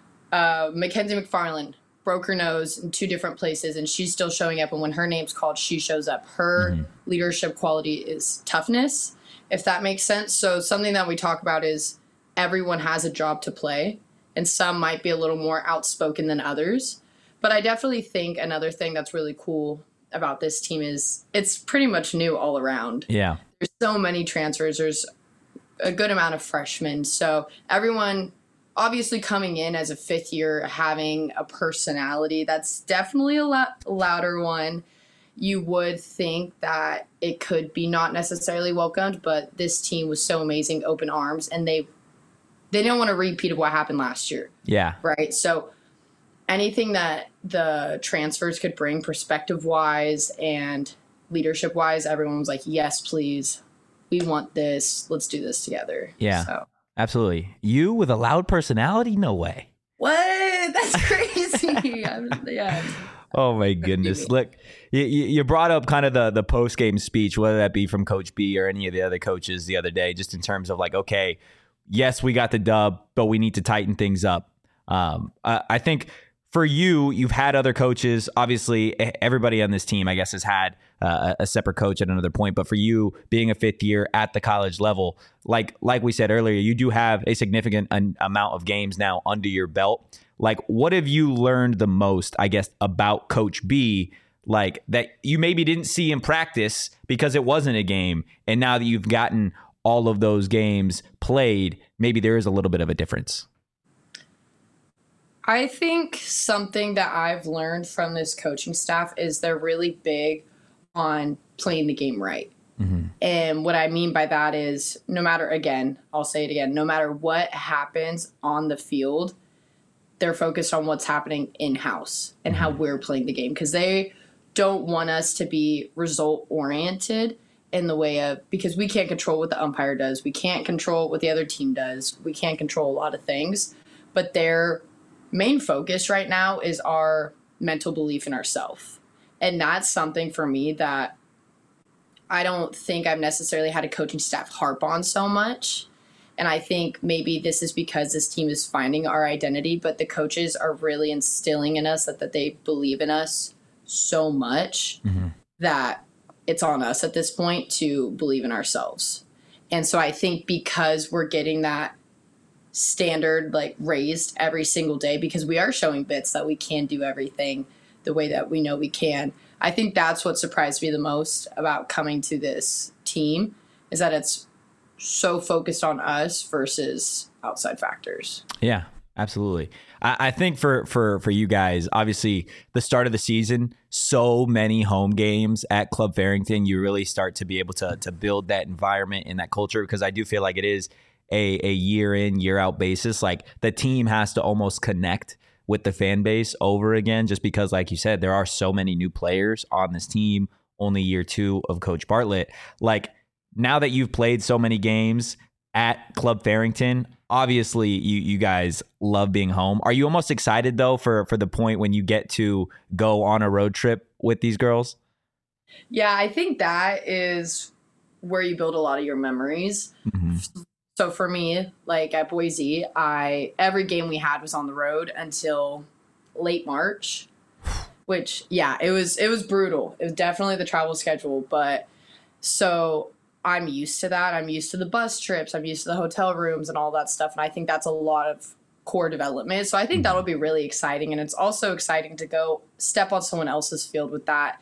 Speaker 8: uh, Mackenzie McFarland, broke her nose in two different places, and she's still showing up. And when her name's called, she shows up. Her mm-hmm. leadership quality is toughness, if that makes sense. So something that we talk about is everyone has a job to play, and some might be a little more outspoken than others. But I definitely think another thing that's really cool about this team is it's pretty much new all around.
Speaker 1: Yeah.
Speaker 8: There's so many transfers. There's a good amount of freshmen. So everyone obviously coming in as a fifth year, having a personality that's definitely a lot louder one. You would think that it could be not necessarily welcomed, but this team was so amazing, open arms, and they they didn't want a repeat of what happened last year.
Speaker 1: Yeah.
Speaker 8: Right. So anything that the transfers could bring perspective-wise and leadership-wise, everyone was like, yes, please. We want this. Let's do this together.
Speaker 1: Yeah,
Speaker 8: so.
Speaker 1: Absolutely. You with a loud personality? No way.
Speaker 8: What? That's crazy. I'm, yeah.
Speaker 1: Oh, my goodness. Look, you, you brought up kind of the, the post-game speech, whether that be from Coach B or any of the other coaches the other day, just in terms of like, okay, yes, we got the dub, but we need to tighten things up. Um, I, I think for you, you've had other coaches. Obviously, everybody on this team, I guess, has had uh, a separate coach at another point. But for you, being a fifth year at the college level, like like we said earlier, you do have a significant an, amount of games now under your belt. Like, what have you learned the most, I guess, about Coach B, like that you maybe didn't see in practice because it wasn't a game, and now that you've gotten all of those games played, maybe there is a little bit of a difference?
Speaker 8: I think something that I've learned from this coaching staff is they're really big on playing the game right. Mm-hmm. And what I mean by that is no matter, again, I'll say it again, no matter what happens on the field, they're focused on what's happening in-house and mm-hmm. how we're playing the game, because they don't want us to be result-oriented in the way of, because we can't control what the umpire does. We can't control what the other team does. We can't control a lot of things, but they're main focus right now is our mental belief in ourselves. And that's something for me that I don't think I've necessarily had a coaching staff harp on so much. And I think maybe this is because this team is finding our identity, but the coaches are really instilling in us that, that they believe in us so much mm-hmm. that it's on us at this point to believe in ourselves. And so I think because we're getting that standard like raised every single day because we are showing bits that we can do everything the way that we know we can. I think that's what surprised me the most about coming to this team is that it's so focused on us versus outside factors.
Speaker 1: Yeah, absolutely. I, I think for, for, for you guys, obviously the start of the season, so many home games at Club Farrington, you really start to be able to, to build that environment and that culture because I do feel like it is a, a year in, year out basis. Like the team has to almost connect with the fan base over again, just because, like you said, there are so many new players on this team, only year two of Coach Bartlett. Like now that you've played so many games at Club Farrington, obviously you, you guys love being home. Are you almost excited though for, for the point when you get to go on a road trip with these girls?
Speaker 8: Yeah, I think that is where you build a lot of your memories. Mm-hmm. So for me, like at Boise, I every game we had was on the road until late March, which yeah, it was it was brutal. It was definitely the travel schedule, but so I'm used to that. I'm used to the bus trips. I'm used to the hotel rooms and all that stuff, and I think that's a lot of core development. So I think that'll be really exciting, and it's also exciting to go step on someone else's field with that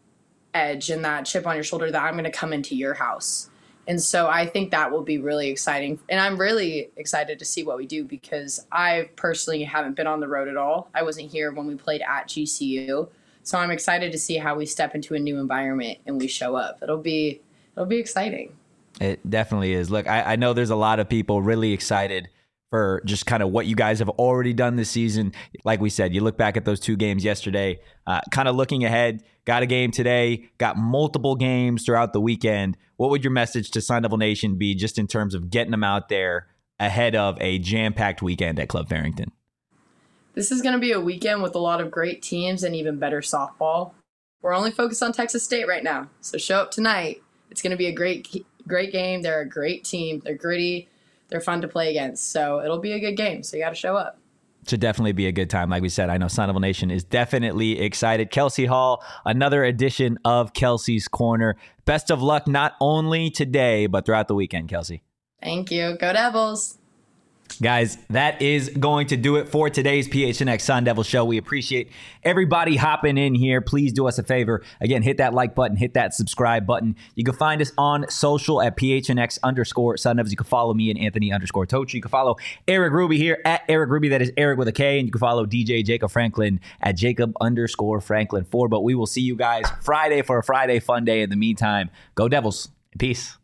Speaker 8: edge and that chip on your shoulder that I'm going to come into your house. And so I think that will be really exciting. And I'm really excited to see what we do because I personally haven't been on the road at all. I wasn't here when we played at G C U. So I'm excited to see how we step into a new environment and we show up. It'll be it'll be exciting.
Speaker 1: It definitely is. Look, I, I know there's a lot of people really excited for just kind of what you guys have already done this season. Like we said, you look back at those two games yesterday, uh, kind of looking ahead, got a game today, got multiple games throughout the weekend. What would your message to Sun Devil Nation be just in terms of getting them out there ahead of a jam-packed weekend at Club Farrington?
Speaker 8: This is going to be a weekend with a lot of great teams and even better softball. We're only focused on Texas State right now, so show up tonight. It's going to be a great, great game. They're a great team. They're gritty. They're fun to play against, so it'll be a good game, so you got to show up.
Speaker 1: Should definitely be a good time. Like we said, I know Sun Devil Nation is definitely excited. Kelsey Hall, another edition of Kelsey's Corner. Best of luck not only today, but throughout the weekend, Kelsey.
Speaker 8: Thank you. Go Devils.
Speaker 1: Guys, that is going to do it for today's P H N X Sun Devil Show. We appreciate everybody hopping in here. Please do us a favor. Again, hit that like button, hit that subscribe button. You can find us on social at P H N X underscore Sun Devils. You can follow me and Anthony underscore Tochi. You can follow Eric Ruby here at Eric Ruby. That is Eric with a K. And you can follow D J Jacob Franklin at Jacob underscore Franklin four. But we will see you guys Friday for a Friday fun day. In the meantime, go Devils. Peace.